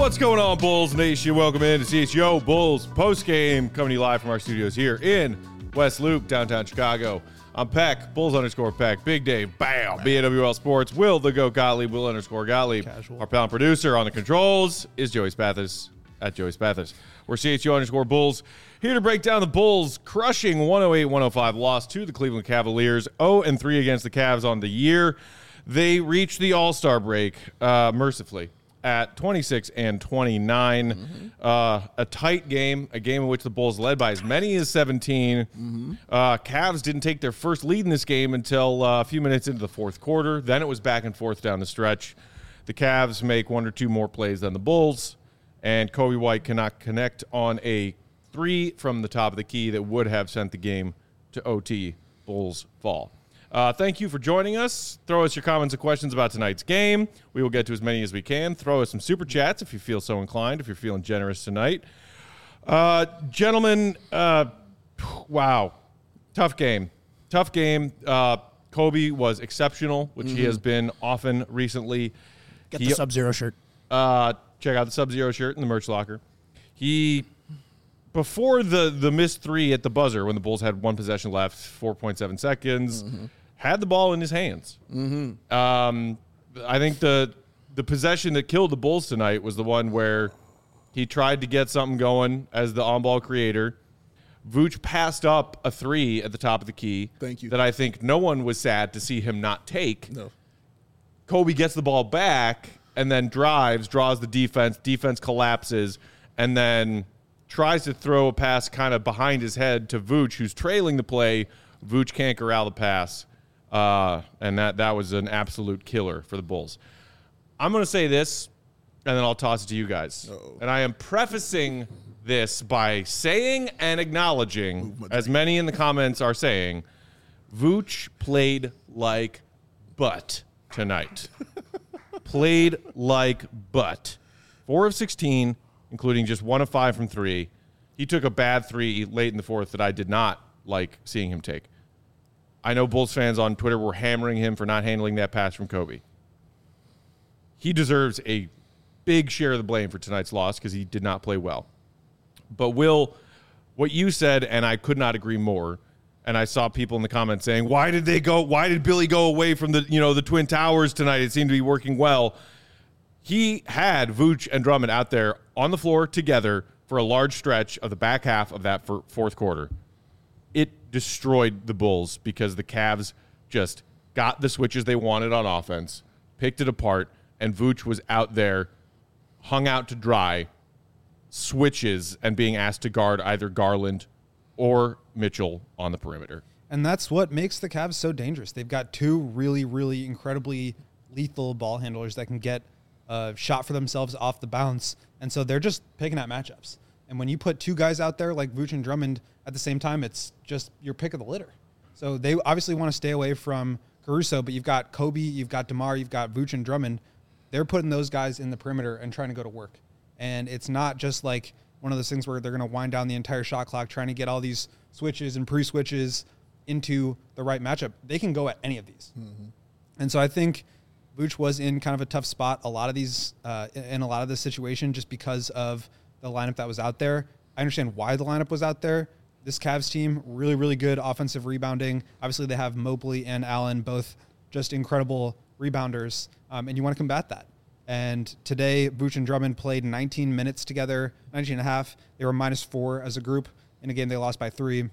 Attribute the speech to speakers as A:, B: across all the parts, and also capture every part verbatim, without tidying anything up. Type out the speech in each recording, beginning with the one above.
A: What's going on, Bulls Nation? Welcome in to C H G O Bulls postgame, coming to you live from our studios here in West Loop, downtown Chicago. I'm Peck, Bulls underscore Peck, Big Dave, bam, B A W L Sports, Will the Goat Gottlieb, Will underscore Gottlieb. Casual. Our pound producer on the controls is Joey Spathis, at Joey Spathis. We're C H G O underscore Bulls, here to break down the Bulls' crushing one oh eight one oh five loss to the Cleveland Cavaliers, oh and three against the Cavs on the year. They reached the All-Star break, uh, mercifully, at twenty-six and twenty-nine. Mm-hmm. Uh, a tight game, a game in which the Bulls led by as many as seventeen. Mm-hmm. Uh, Cavs didn't take their first lead in this game until uh, a few minutes into the fourth quarter. Then it was back and forth down the stretch. The Cavs make one or two more plays than the Bulls, and Coby White cannot connect on a three from the top of the key that would have sent the game to O T. Bulls fall. Uh, thank you for joining us. Throw us your comments and questions about tonight's game. We will get to as many as we can. Throw us some super chats if you feel so inclined, if you're feeling generous tonight. Uh, gentlemen, uh, wow. Tough game. Tough game. Uh, Coby was exceptional, which mm-hmm. he has been often recently.
B: Get
A: he,
B: the Sub-Zero shirt.
A: Uh, check out the Sub-Zero shirt in the merch locker. He... Before the, the missed three at the buzzer, when the Bulls had one possession left, four point seven seconds, mm-hmm. had the ball in his hands. Mm-hmm. Um, I think the the possession that killed the Bulls tonight was the one where he tried to get something going as the on-ball creator. Vooch passed up a three at the top of the key.
B: Thank you.
A: That I think no one was sad to see him not take.
B: No.
A: Coby gets the ball back and then drives, draws the defense. Defense collapses, and then tries to throw a pass kind of behind his head to Vooch, who's trailing the play. Vooch can't corral the pass, uh, and that, that was an absolute killer for the Bulls. I'm going to say this, and then I'll toss it to you guys. Uh-oh. And I am prefacing this by saying and acknowledging, Ooh, as many in the comments are saying, Vooch played like butt tonight. Played like butt. four of sixteen. Including just one of five from three. He took a bad three late in the fourth that I did not like seeing him take. I know Bulls fans on Twitter were hammering him for not handling that pass from Coby. He deserves a big share of the blame for tonight's loss because he did not play well. But Will, what you said, and I could not agree more, and I saw people in the comments saying, why did they go, why did Billy go away from the, you know, the Twin Towers tonight? It seemed to be working well. He had Vooch and Drummond out there on the floor together for a large stretch of the back half of that fourth quarter. It destroyed the Bulls because the Cavs just got the switches they wanted on offense, picked it apart, and Vooch was out there, hung out to dry, switches, and being asked to guard either Garland or Mitchell on the perimeter.
C: And that's what makes the Cavs so dangerous. They've got two really, really incredibly lethal ball handlers that can get a shot for themselves off the bounce. And so they're just picking at matchups. And when you put two guys out there like Vooch and Drummond at the same time, it's just your pick of the litter. So they obviously want to stay away from Caruso, but you've got Coby, you've got DeMar, you've got Vooch and Drummond. They're putting those guys in the perimeter and trying to go to work. And it's not just like one of those things where they're going to wind down the entire shot clock trying to get all these switches and pre-switches into the right matchup. They can go at any of these. Mm-hmm. And so I think Vooch was in kind of a tough spot a lot of these uh, in a lot of this situation just because of the lineup that was out there. I understand why the lineup was out there. This Cavs team, really, really good offensive rebounding. Obviously, they have Mobley and Allen, both just incredible rebounders, um, and you want to combat that. And today, Vooch and Drummond played nineteen minutes together, nineteen and a half. They were minus four as a group. In a game, they lost by three.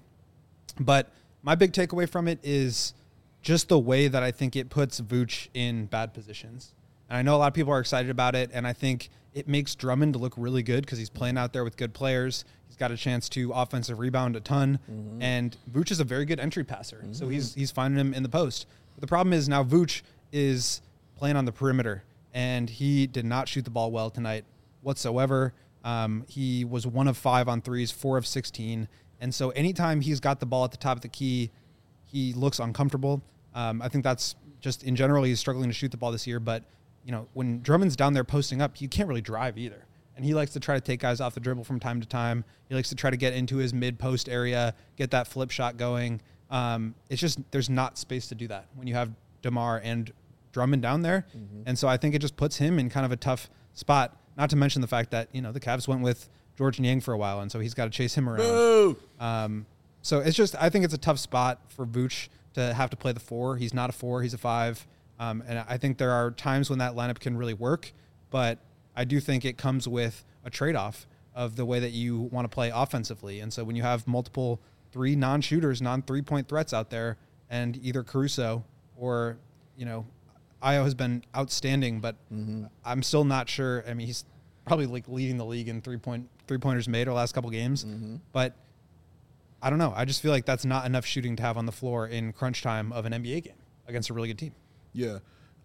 C: But my big takeaway from it is just the way that I think it puts Vooch in bad positions. And I know a lot of people are excited about it, and I think it makes Drummond look really good because he's playing out there with good players. He's got a chance to offensive rebound a ton, mm-hmm. and Vooch is a very good entry passer, mm-hmm. so he's he's finding him in the post. But the problem is now Vooch is playing on the perimeter, and he did not shoot the ball well tonight whatsoever. Um, he was one of five on threes, four of sixteen, and so anytime he's got the ball at the top of the key, he looks uncomfortable. Um, I think that's just in general, he's struggling to shoot the ball this year. But, you know, when Drummond's down there posting up, you can't really drive either. And he likes to try to take guys off the dribble from time to time. He likes to try to get into his mid-post area, get that flip shot going. Um, it's just there's not space to do that when you have DeMar and Drummond down there. Mm-hmm. And so I think it just puts him in kind of a tough spot. not to mention the fact that, you know, the Cavs went with George Niang for a while, and so he's got to chase him around. Um, so it's just, I think it's a tough spot for Vooch to have to play the four. He's not a four, he's a five. Um, and I think there are times when that lineup can really work, but I do think it comes with a trade-off of the way that you want to play offensively. And so when you have multiple three non-shooters, non-three-point threats out there, and either Caruso or, you know, Ayo has been outstanding, but mm-hmm. I'm still not sure. I mean, he's probably like leading the league in three-point three-pointers made over the last couple games, mm-hmm. but I don't know. I just feel like that's not enough shooting to have on the floor in crunch time of an N B A game against a really good team.
B: Yeah.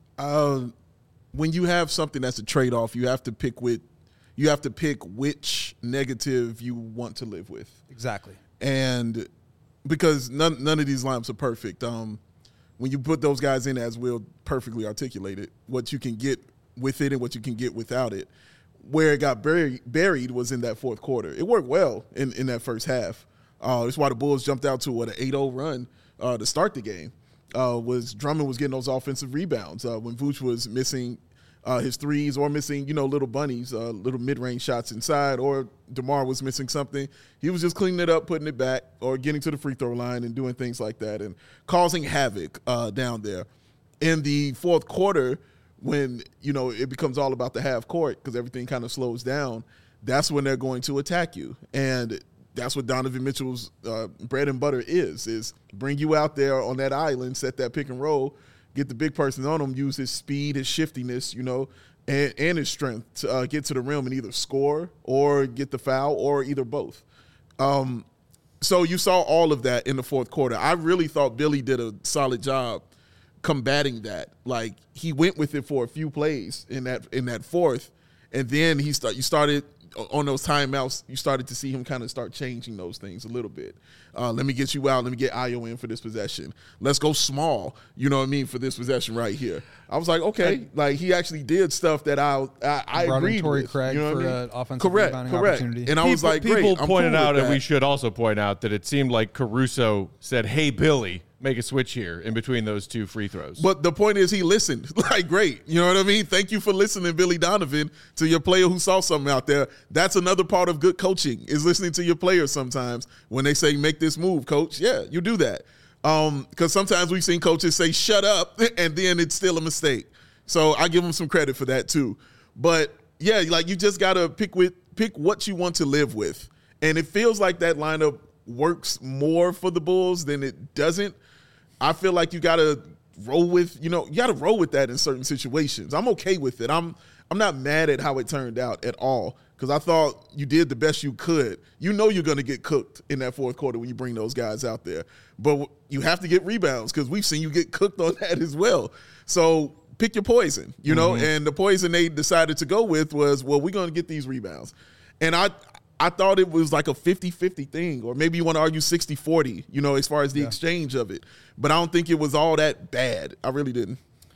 B: Uh, when you have something that's a trade-off, you have to pick with, you have to pick which negative you want to live with.
C: Exactly.
B: And because none none of these lineups are perfect. Um, when you put those guys in, as Will perfectly articulated, what you can get with it and what you can get without it. Where it got buried, buried was in that fourth quarter. It worked well in, in that first half. Uh, that's why the Bulls jumped out to what an eight oh run uh, to start the game. Uh, was Drummond was getting those offensive rebounds uh, when Vooch was missing uh, his threes or missing, you know, little bunnies, uh, little mid-range shots inside, or DeMar was missing something. He was just cleaning it up, putting it back, or getting to the free throw line and doing things like that and causing havoc uh, down there. In the fourth quarter, when, you know, it becomes all about the half court because everything kind of slows down, that's when they're going to attack you. And that's what Donovan Mitchell's uh, bread and butter is, is bring you out there on that island, set that pick and roll, get the big person on him, use his speed, his shiftiness, you know, and, and his strength to uh, get to the rim and either score or get the foul or either both. Um, so you saw all of that in the fourth quarter. I really thought Billy did a solid job combating that. Like, he went with it for a few plays in that in that fourth, and then he start you started on those timeouts, you started to see him kind of start changing those things a little bit. Uh, let me get you out. Let me get Ayo in for this possession. Let's go small, you know what I mean, for this possession right here. I was like, okay, I, like he actually did stuff that I I, I agreed
C: Torrey
B: with.
C: Craig
B: you know
C: for
B: what I mean?
C: an offensive
B: correct,
C: rebounding
B: correct.
C: opportunity.
B: And I
A: people,
B: was like, great,
A: people
B: I'm
A: pointed
B: cool
A: out,
B: with
A: and
B: that.
A: we should also point out that it seemed like Caruso said, "Hey, Billy, make a switch here in between those two free throws."
B: But the point is, he listened. Like, great. You know what I mean? Thank you for listening, Billy Donovan, to your player who saw something out there. That's another part of good coaching, is listening to your players sometimes when they say, make this move, coach. Yeah, you do that. Um, because sometimes we've seen coaches say, shut up, and then it's still a mistake. So I give them some credit for that too. But, yeah, like you just got to pick with pick what you want to live with. And it feels like that lineup works more for the Bulls than it doesn't. I feel like you got to roll with, you know, you got to roll with that in certain situations. I'm okay with it. I'm I'm not mad at how it turned out at all because I thought you did the best you could. You know you're going to get cooked in that fourth quarter when you bring those guys out there. But you have to get rebounds because we've seen you get cooked on that as well. So pick your poison, you know, mm-hmm. and the poison they decided to go with was, well, we're going to get these rebounds. And I I thought it was like a fifty-fifty thing, or maybe you want to argue sixty forty, you know, as far as the yeah. exchange of it. But I don't think it was all that bad. I really didn't.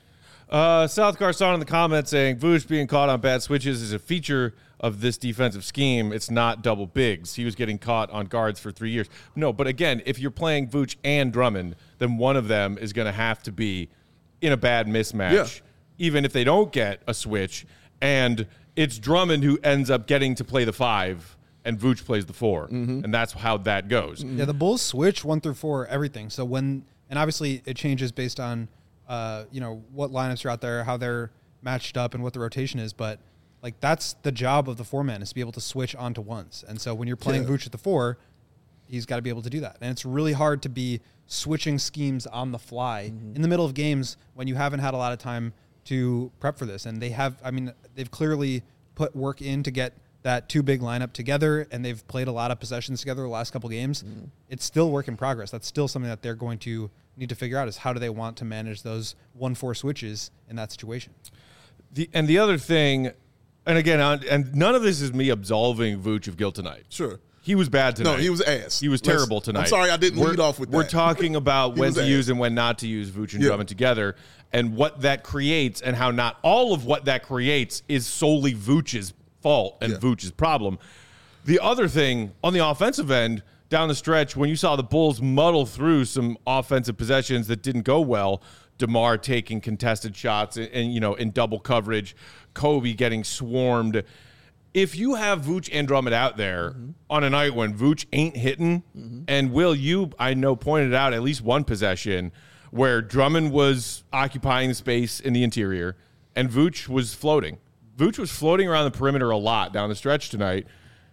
A: Uh, South Garson in the comments saying, Vooch being caught on bad switches is a feature of this defensive scheme. It's not double bigs. He was getting caught on guards for three years. No, but again, if you're playing Vooch and Drummond, then one of them is going to have to be in a bad mismatch, yeah. even if they don't get a switch. And it's Drummond who ends up getting to play the five, and Vooch plays the four, mm-hmm. and that's how that goes.
C: Yeah, the Bulls switch one through four, everything. So when, and obviously it changes based on, uh, you know, what lineups are out there, how they're matched up, and what the rotation is. But like that's the job of the four man, is to be able to switch onto ones. And so when you're playing yeah. Vooch at the four, he's got to be able to do that. And it's really hard to be switching schemes on the fly mm-hmm. in the middle of games when you haven't had a lot of time to prep for this. And they have, I mean, they've clearly put work in to get that two big lineup together, and they've played a lot of possessions together the last couple games. Mm. It's still work in progress. That's still something that they're going to need to figure out, is how do they want to manage those one four switches in that situation.
A: The and the other thing, and again, and none of this is me absolving Vooch of guilt tonight.
B: Sure.
A: He was bad tonight.
B: No, he was ass.
A: He was terrible tonight.
B: I'm sorry I didn't
A: we're,
B: lead off with that.
A: We're talking about when to
B: ass.
A: use and when not to use Vooch and
B: yeah.
A: Drummond together, and what that creates, and how not all of what that creates is solely Vooch's fault and yeah. Vooch's problem. The other thing, on the offensive end, down the stretch, when you saw the Bulls muddle through some offensive possessions that didn't go well, DeMar taking contested shots and, and, you know, in double coverage, Kobe getting swarmed. If you have Vooch and Drummond out there mm-hmm. on a night when Vooch ain't hitting, mm-hmm. and Will, you, I know, pointed out at least one possession where Drummond was occupying the space in the interior and Vooch was floating. Vooch was floating around the perimeter a lot down the stretch tonight.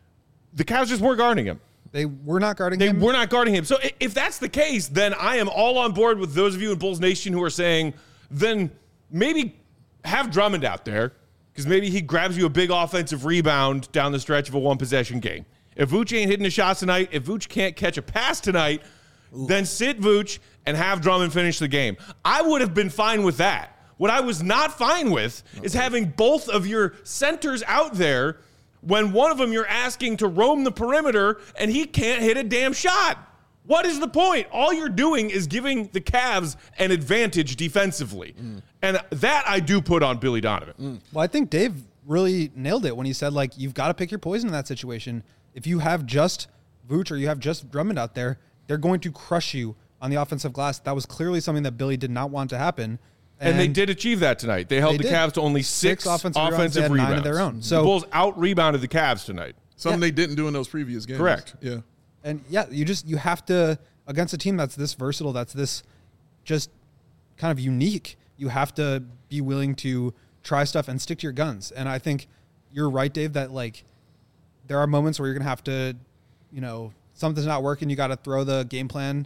A: The Cavs just weren't guarding him.
C: They were not guarding
A: they
C: him?
A: They were not guarding him. So if that's the case, then I am all on board with those of you in Bulls Nation who are saying, then maybe have Drummond out there because maybe he grabs you a big offensive rebound down the stretch of a one-possession game. If Vooch ain't hitting the shots tonight, if Vooch can't catch a pass tonight, Ooh. then sit Vooch and have Drummond finish the game. I would have been fine with that. What I was not fine with okay. is having both of your centers out there when one of them you're asking to roam the perimeter and he can't hit a damn shot. What is the point? All you're doing is giving the Cavs an advantage defensively. Mm. And that I do put on Billy Donovan.
C: Mm. Well, I think Dave really nailed it when he said, like, you've got to pick your poison in that situation. If you have just Vooch or you have just Drummond out there, they're going to crush you on the offensive glass. That was clearly something that Billy did not want to happen.
A: And, and they did achieve that tonight. They held they the did. Cavs to only six, six offensive, offensive rebounds. Nine of their own. So the Bulls out-rebounded the Cavs tonight.
B: Something
C: yeah.
B: they didn't do in those previous games.
A: Correct.
B: Yeah.
C: And, yeah, you just you have to, against a team that's this versatile, that's this just kind of unique, you have to be willing to try stuff and stick to your guns. And I think you're right, Dave, that, like, there are moments where you're going to have to, you know, something's not working, you got to throw the game plan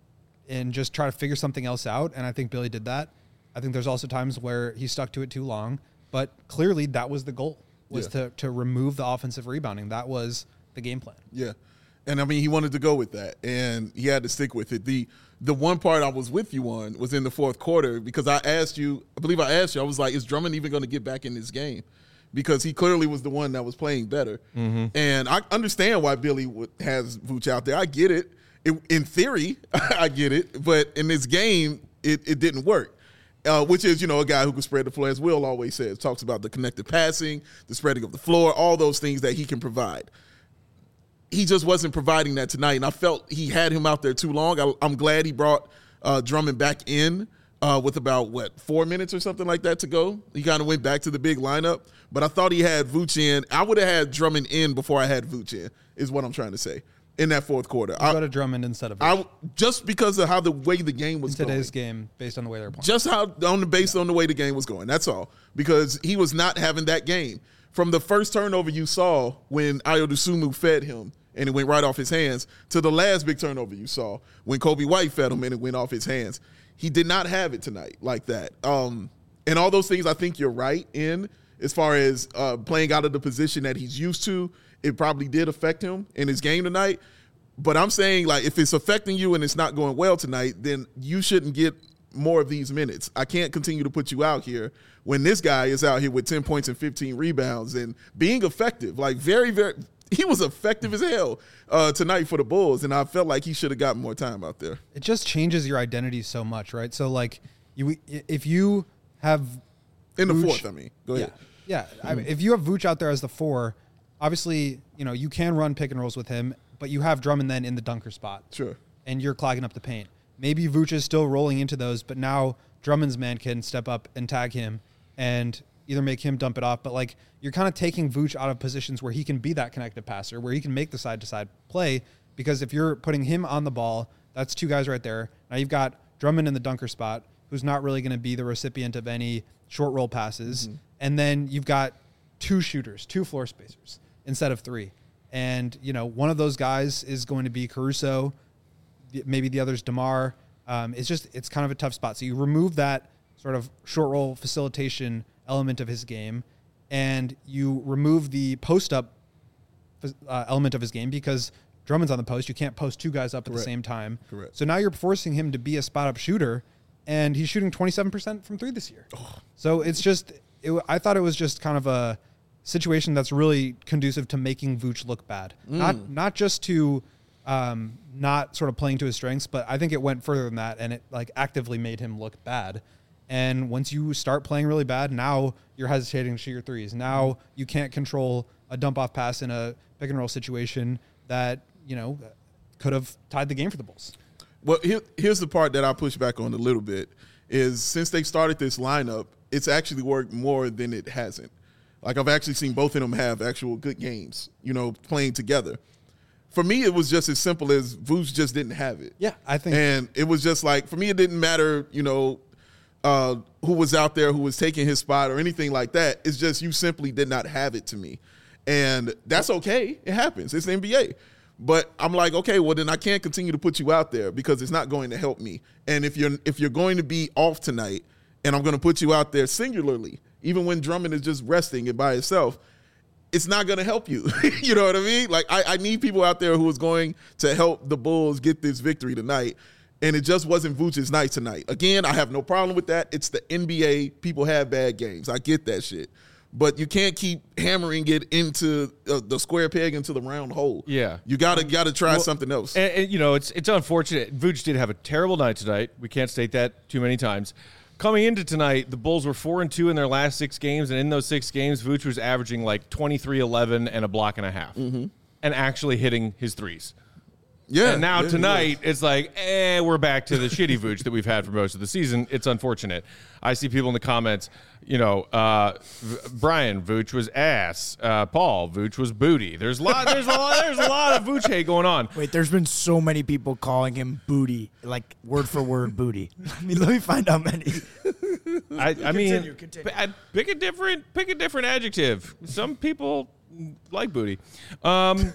C: and just try to figure something else out. And I think Billy did that. I think there's also times where he stuck to it too long, but clearly that was the goal, was yeah. to, to remove the offensive rebounding. That was the game plan.
B: Yeah. And, I mean, he wanted to go with that, and he had to stick with it. The the one part I was with you on was in the fourth quarter because I asked you, I believe I asked you, I was like, is Drummond even going to get back in this game? Because he clearly was the one that was playing better. Mm-hmm. And I understand why Billy has Vooch out there. I get it. it in theory, I get it. But in this game, it, it didn't work. Uh, which is, you know, a guy who can spread the floor, as Will always says, talks about the connected passing, the spreading of the floor, all those things that he can provide. He just wasn't providing that tonight, and I felt he had him out there too long. I, I'm glad he brought uh, Drummond back in uh, with about, what, four minutes or something like that to go. He kind of went back to the big lineup, but I thought he had Vooch in. I would have had Drummond in before I had Vooch in, is what I'm trying to say. In that fourth quarter,
C: I go to Drummond instead of Vooch.
B: I just because of how the way the game was
C: in today's
B: going.
C: game, based on the way they're playing.
B: Just how on the based yeah. on the way the game was going. That's all. Because he was not having that game from the first turnover you saw when Ayo Dosunmu fed him and it went right off his hands to the last big turnover you saw when Kobe White fed him and it went off his hands. He did not have it tonight like that. Um, and all those things, I think you're right in as far as uh, playing out of the position that he's used to. It probably did affect him in his game tonight. But I'm saying, like, if it's affecting you and it's not going well tonight, then you shouldn't get more of these minutes. I can't continue to put you out here when this guy is out here with ten points and fifteen rebounds and being effective. Like, very, very – he was effective as hell uh, tonight for the Bulls, and I felt like he should have gotten more time out there.
C: It just changes your identity so much, right? So, like, you if you have –
B: In the
C: Vooch,
B: fourth, I mean. Go ahead.
C: Yeah, yeah. I mean, if you have Vooch out there as the four – obviously, you know, you can run pick and rolls with him, but you have Drummond then in the dunker spot.
B: Sure.
C: And you're clogging up the paint. Maybe Vooch is still rolling into those, but now Drummond's man can step up and tag him and either make him dump it off. But, like, you're kind of taking Vooch out of positions where he can be that connected passer, where he can make the side-to-side play, because if you're putting him on the ball, that's two guys right there. Now you've got Drummond in the dunker spot, who's not really going to be the recipient of any short roll passes. Mm-hmm. And then you've got two shooters, two floor spacers, instead of three. And, you know, one of those guys is going to be Caruso. Maybe the other's DeMar. Um, it's just, it's kind of a tough spot. So you remove that sort of short roll facilitation element of his game, and you remove the post-up uh, element of his game because Drummond's on the post. You can't post two guys up Correct. At the same time.
B: Correct.
C: So now you're forcing him to be a spot-up shooter, and he's shooting twenty-seven percent from three this year. Oh. So it's just, it, I thought it was just kind of a situation that's really conducive to making Vooch look bad. Mm. Not not just to um, not sort of playing to his strengths, but I think it went further than that, and it like actively made him look bad. And once you start playing really bad, now you're hesitating to shoot your threes. Now you can't control a dump-off pass in a pick-and-roll situation that, you know, could have tied the game for the Bulls.
B: Well, here, here's the part that I push back on a little bit, is since they started this lineup, it's actually worked more than it hasn't. Like, I've actually seen both of them have actual good games, you know, playing together. For me, it was just as simple as Vooch just didn't have it.
C: Yeah, I think.
B: And it was just like, for me, it didn't matter, you know, uh, who was out there, who was taking his spot or anything like that. It's just you simply did not have it to me. And that's okay. It happens. It's the N B A. But I'm like, okay, well, then I can't continue to put you out there because it's not going to help me. And if you're if you're going to be off tonight and I'm going to put you out there singularly, even when Drummond is just resting it by itself, it's not going to help you. You know what I mean? Like, I, I need people out there who is going to help the Bulls get this victory tonight. And it just wasn't Vooch's night tonight. Again, I have no problem with that. It's the N B A. People have bad games. I get that shit. But you can't keep hammering it into uh, the square peg into the round hole.
A: Yeah.
B: You gotta gotta try well, something else.
A: And, and, you know, it's it's unfortunate. Vooch did have a terrible night tonight. We can't state that too many times. Coming into tonight, the Bulls were four and two in their last six games, and in those six games, Vooch was averaging like twenty-three, eleven, and a block and a half, mm-hmm. and actually hitting his threes.
B: Yeah.
A: And now
B: yeah,
A: tonight, it's like, eh, we're back to the shitty Vooch that we've had for most of the season. It's unfortunate. I see people in the comments, you know, uh, v- Brian, Vooch was ass. Uh, Paul, Vooch was booty. There's a lot. There's a lot. There's a lot of Vooch hate going on.
D: Wait, there's been so many people calling him booty, like word for word booty. I mean, let me find out many.
A: I, I mean,
D: Continue, continue.
A: p- pick a different, pick a different adjective. Some people like booty. Um,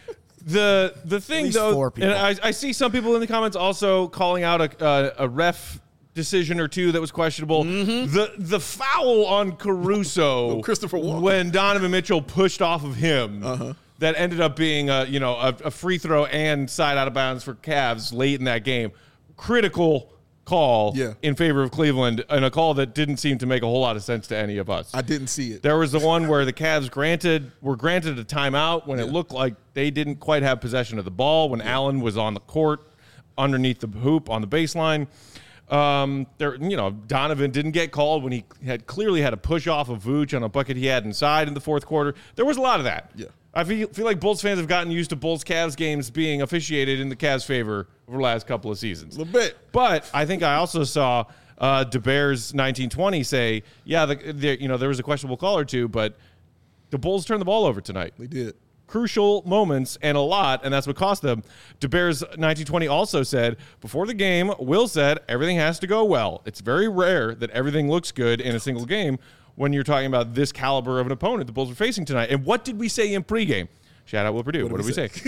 A: The the thing
D: least
A: though,
D: four people.
A: and I, I see some people in the comments also calling out a uh, a ref decision or two that was questionable.
B: Mm-hmm.
A: The the foul on Caruso,
B: Oh, Christopher Walken.
A: when Donovan Mitchell pushed off of him,
B: Uh-huh.
A: that ended up being a you know a, a free throw and side out of bounds for Cavs late in that game. Critical call
B: Yeah.
A: in favor of Cleveland, and a call that didn't seem to make a whole lot of sense to any of us.
B: I didn't see it.
A: There was the one where the Cavs granted were granted a timeout when it looked like they didn't quite have possession of the ball when Allen was on the court underneath the hoop on the baseline. Um, there, you know, Donovan didn't get called when he had clearly had a push off of Vooch on a bucket he had inside in the fourth quarter. There was a lot of that.
B: Yeah.
A: I feel, feel like Bulls fans have gotten used to Bulls-Cavs games being officiated in the Cavs' favor over the last couple of seasons.
B: A little bit.
A: But I think I also saw uh, DeBears nineteen twenty say, yeah, the, the, you know, there was a questionable call or two, but the Bulls turned the ball over tonight.
B: They did.
A: Crucial moments and a lot, and that's what cost them. DeBears nineteen twenty also said, before the game, Will said, everything has to go well. It's very rare that everything looks good in a single game when you're talking about this caliber of an opponent the Bulls are facing tonight. And what did we say in pregame? Shout out Will Purdue. What, what did we say? say?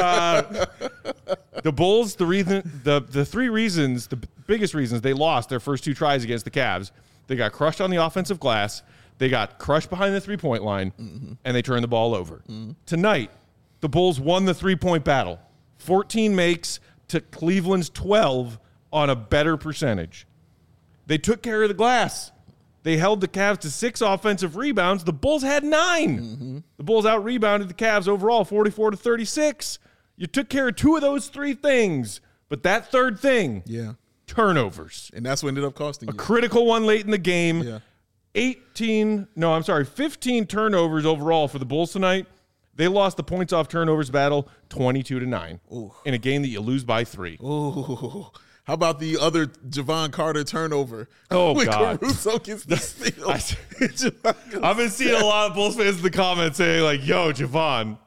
A: uh, the Bulls, the reason, the the three reasons, the biggest reasons they lost their first two tries against the Cavs, they got crushed on the offensive glass, they got crushed behind the three-point line, mm-hmm. and they turned the ball over. Mm-hmm. Tonight, the Bulls won the three-point battle. fourteen makes to Cleveland's twelve on a better percentage. They took care of the glass. They held the Cavs to six offensive rebounds. The Bulls had nine. Mm-hmm. The Bulls out-rebounded the Cavs overall forty-four to thirty-six. You took care of two of those three things, but that third thing,
B: Yeah.
A: turnovers.
B: And that's what ended up costing
A: A
B: you.
A: critical one late in the game.
B: Yeah.
A: eighteen, no, I'm sorry, fifteen turnovers overall for the Bulls tonight. They lost the points off turnovers battle twenty-two to nine
B: Ooh.
A: in a game that you lose by three.
B: Ooh. How about the other Javon Carter turnover?
A: Oh,
B: when
A: God.
B: Caruso gets the steal.
A: I, I've been seeing a lot of Bulls fans in the comments saying, like, yo, Javon.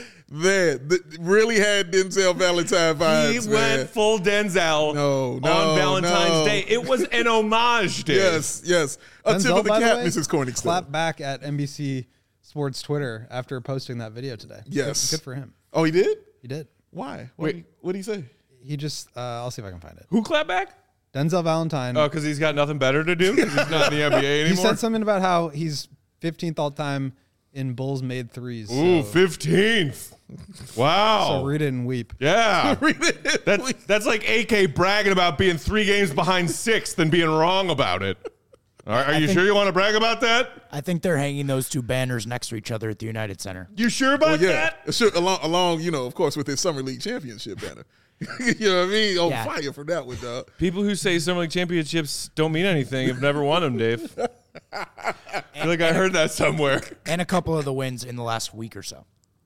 B: Man, th- really had Denzel Valentine vibes,
A: He
B: man.
A: went full Denzel
B: No, no,
A: on Valentine's
B: no.
A: Day. It was an homage day.
B: Yes, yes. A tip
C: Denzel,
B: of the
C: by
B: cap,
C: way,
B: Missus Corningstone.
C: clap back at N B C Sports Twitter after posting that video today.
B: Yes.
C: Good, good for him.
B: Oh, he did?
C: He did.
B: Why? What
A: Wait.
B: did he, what did he say?
C: He just, uh, I'll see if I can find it.
A: Who clapped back?
C: Denzel Valentine.
A: Oh, because he's got nothing better to do? 'Cause he's not in the N B A anymore?
C: he said something about how he's fifteenth all time in Bulls made threes.
A: Ooh,
C: so,
A: fifteenth. Wow.
C: so read it and weep.
A: Yeah.
B: Read it.
A: That's, that's like A K bragging about being three games behind sixth and being wrong about it. All right, are
D: I
A: you
D: think-
A: sure you want to brag about that?
D: I think they're hanging those two banners next to each other at the United Center.
A: You sure about
B: Well, yeah.
A: that?
B: Sure, along, along, you know, of course, with his Summer League championship banner. You know what I mean? On
D: Yeah.
B: fire for that one, dog.
A: People who say Summer League championships don't mean anything have never won them, Dave. I feel like I heard that somewhere.
D: And a couple of the wins in the last week or so.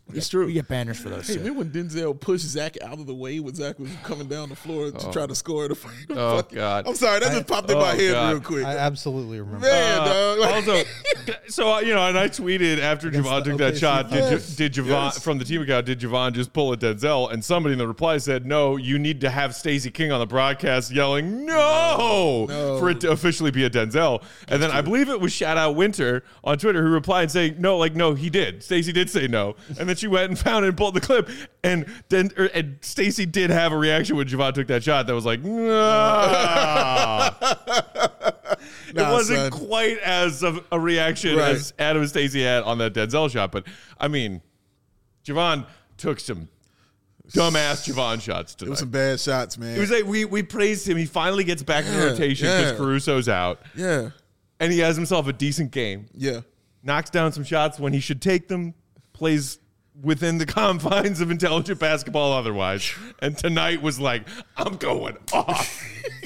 B: It's true.
D: We get banners for those.
B: Hey,
D: too.
B: remember when Denzel pushed Zach out of the way when Zach was coming down the floor to try to score the
A: Oh,
B: fucking-
A: God.
B: I'm sorry, that just popped in
A: oh,
B: my head
A: God.
B: real quick.
C: I absolutely remember.
B: Man,
A: Uh,
B: dog. Like-
A: also, so uh, you know, and I tweeted after
C: Against
A: Javon
C: the
A: took that
C: O K C
A: shot. Did,
B: Yes.
A: J- did Javon
B: Yes.
A: from the team account? Did Javon just pull a Denzel? And somebody in the reply said, "No, you need to have Stacey King on the broadcast yelling no,
B: No.
A: for it to officially be a Denzel." And then I believe it was Shout Out Winter on Twitter who replied saying, "No, like no, he did. Stacey did say no." And then she went and found it and pulled the clip. And then er, and Stacey did have a reaction when Javon took that shot that was like, nah. It
B: Nah,
A: wasn't
B: son.
A: quite as of a reaction
B: Right.
A: as Adam and Stacey had on that Denzel shot, but I mean, Javon took some dumbass Javon shots
B: It
A: tonight.
B: was some bad shots, man.
A: It was like we we praised him. He finally gets back in the
B: Yeah,
A: rotation because
B: yeah.
A: Caruso's out,
B: yeah,
A: and he has himself a decent game.
B: yeah.
A: Knocks down some shots when he should take them. Plays within the confines of intelligent basketball otherwise. And tonight was like, I'm going off.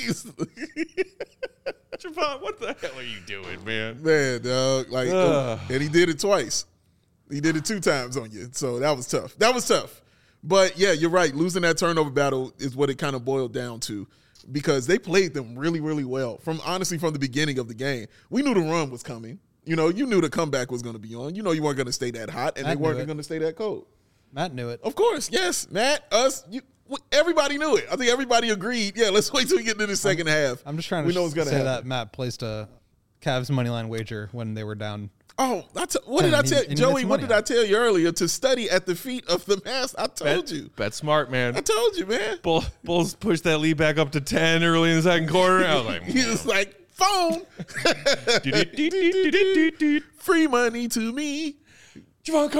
A: Javon, what the hell are you doing, man?
B: Man, dog. Like,
A: Ugh.
B: and he did it twice. He did it two times on you. So that was tough. That was tough. But yeah, you're right. Losing that turnover battle is what it kind of boiled down to, because they played them really, really well. From honestly, from the beginning of the game, we knew the run was coming. You know, you knew the comeback was going to be on. You know, you weren't going to stay that hot, and
C: Matt
B: they
C: knew
B: weren't
C: it.
B: going to stay that cold.
C: Matt knew it.
B: Of course, yes, Matt, us, you, everybody knew it. I think everybody agreed. Yeah, let's wait till we get into the second half.
C: I'm just trying to
B: we know what's
C: sh-
B: going to
C: say
B: happen.
C: that Matt placed a Cavs money line wager when they were down.
B: Oh, I t- what did
C: And
B: I
C: he-
B: tell
C: and he
B: Joey?
C: made some
B: What
C: money
B: did
C: on
B: I
C: it.
B: tell you earlier? To study at the feet of the master. I told
A: Bet,
B: you.
A: bet smart, man.
B: I told you, man.
A: Bull, Bulls pushed that lead back up to ten early in the second quarter. I was like,
B: He was like, phone,
A: "Do-do-do-do-do-do-do."
B: free money to me.
A: Javon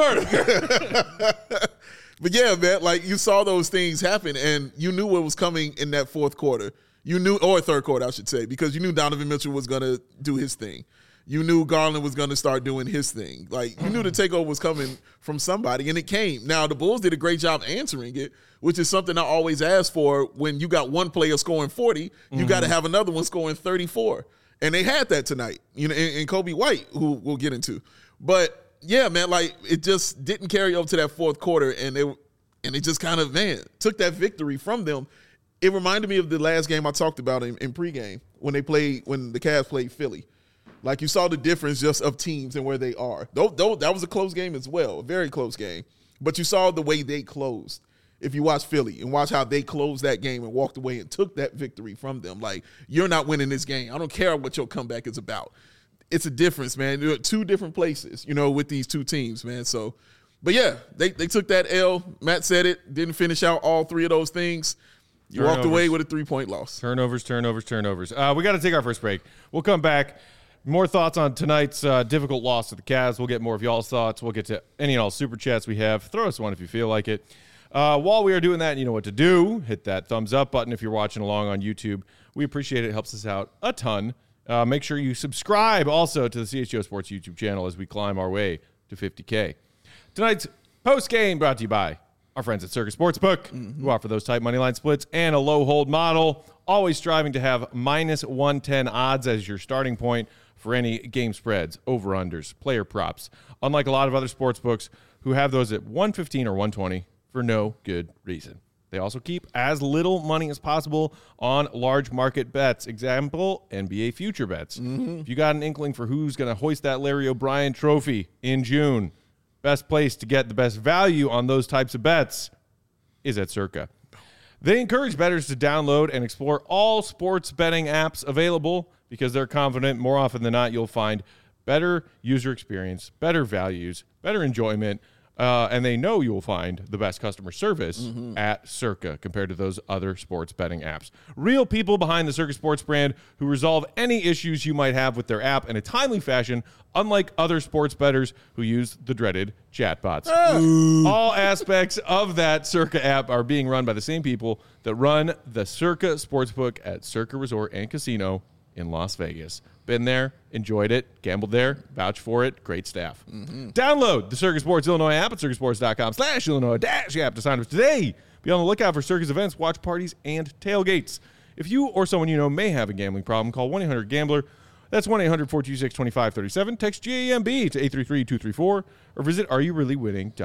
A: Carter.
B: But yeah, man, like you saw those things happen, and you knew what was coming in that fourth quarter. You knew, or third quarter, I should say, because you knew Donovan Mitchell was going to do his thing. You knew Garland was going to start doing his thing. Like, you knew the takeover was coming from somebody, and it came. Now, the Bulls did a great job answering it, which is something I always ask for. When you got one player scoring forty, you got to have another one scoring thirty-four. And they had that tonight, you know, and, and Kobe White, who we'll get into. But, yeah, man, like, it just didn't carry over to that fourth quarter, and they, and it just kind of, man, took that victory from them. It reminded me of the last game I talked about in, in pregame when they played, when the Cavs played Philly. Like, you saw the difference just of teams and where they are. Though, though that was a close game as well, a very close game. But you saw the way they closed. If you watch Philly and watch how they closed that game and walked away and took that victory from them, like, you're not winning this game. I don't care what your comeback is about. It's a difference, man. You're at two different places, you know, with these two teams, man. So, but yeah, they, they took that L. Matt said it, didn't finish out all three of those things. You walked
A: Turnovers.
B: away with a three-point loss.
A: Turnovers, turnovers, turnovers. Uh, we got to take our first break. We'll come back. More thoughts on tonight's uh, difficult loss to the Cavs. We'll get more of y'all's thoughts. We'll get to any and all super chats we have. Throw us one if you feel like it. Uh, while we are doing that, you know what to do. Hit that thumbs up button if you're watching along on YouTube. We appreciate it. It helps us out a ton. Uh, make sure you subscribe also to the C H G O Sports YouTube channel as we climb our way to fifty K. Tonight's post game brought to you by our friends at Circus Sportsbook, mm-hmm. who offer those tight money line splits and a low hold model, always striving to have minus one ten odds as your starting point for any game spreads, over-unders, player props. Unlike a lot of other sports books who have those at one fifteen or one twenty for no good reason. They also keep as little money as possible on large market bets. Example, N B A future bets. Mm-hmm. If you got an inkling for who's going to hoist that Larry O'Brien trophy in June, best place to get the best value on those types of bets is at Circa. They encourage bettors to download and explore all sports betting apps available because they're confident more often than not you'll find better user experience, better values, better enjoyment, uh, and they know you will find the best customer service mm-hmm. at Circa compared to those other sports betting apps. Real people behind the Circa Sports brand who resolve any issues you might have with their app in a timely fashion, unlike other sports bettors who use the dreaded chatbots. Ah. All aspects of that Circa app are being run by the same people that run the Circa Sportsbook at Circa Resort and Casino in Las Vegas. Been there, enjoyed it, gambled there, vouch for it, great staff. Mm-hmm. Download the Circa Sports Illinois app at circasports.com slash Illinois dash app to sign up today. Be on the lookout for Circa's events, watch parties, and tailgates. If you or someone you know may have a gambling problem, call one eight hundred gambler. That's one eight hundred four two six two five three seven. Text G A M B to eight three three two three four or visit are you really winning dot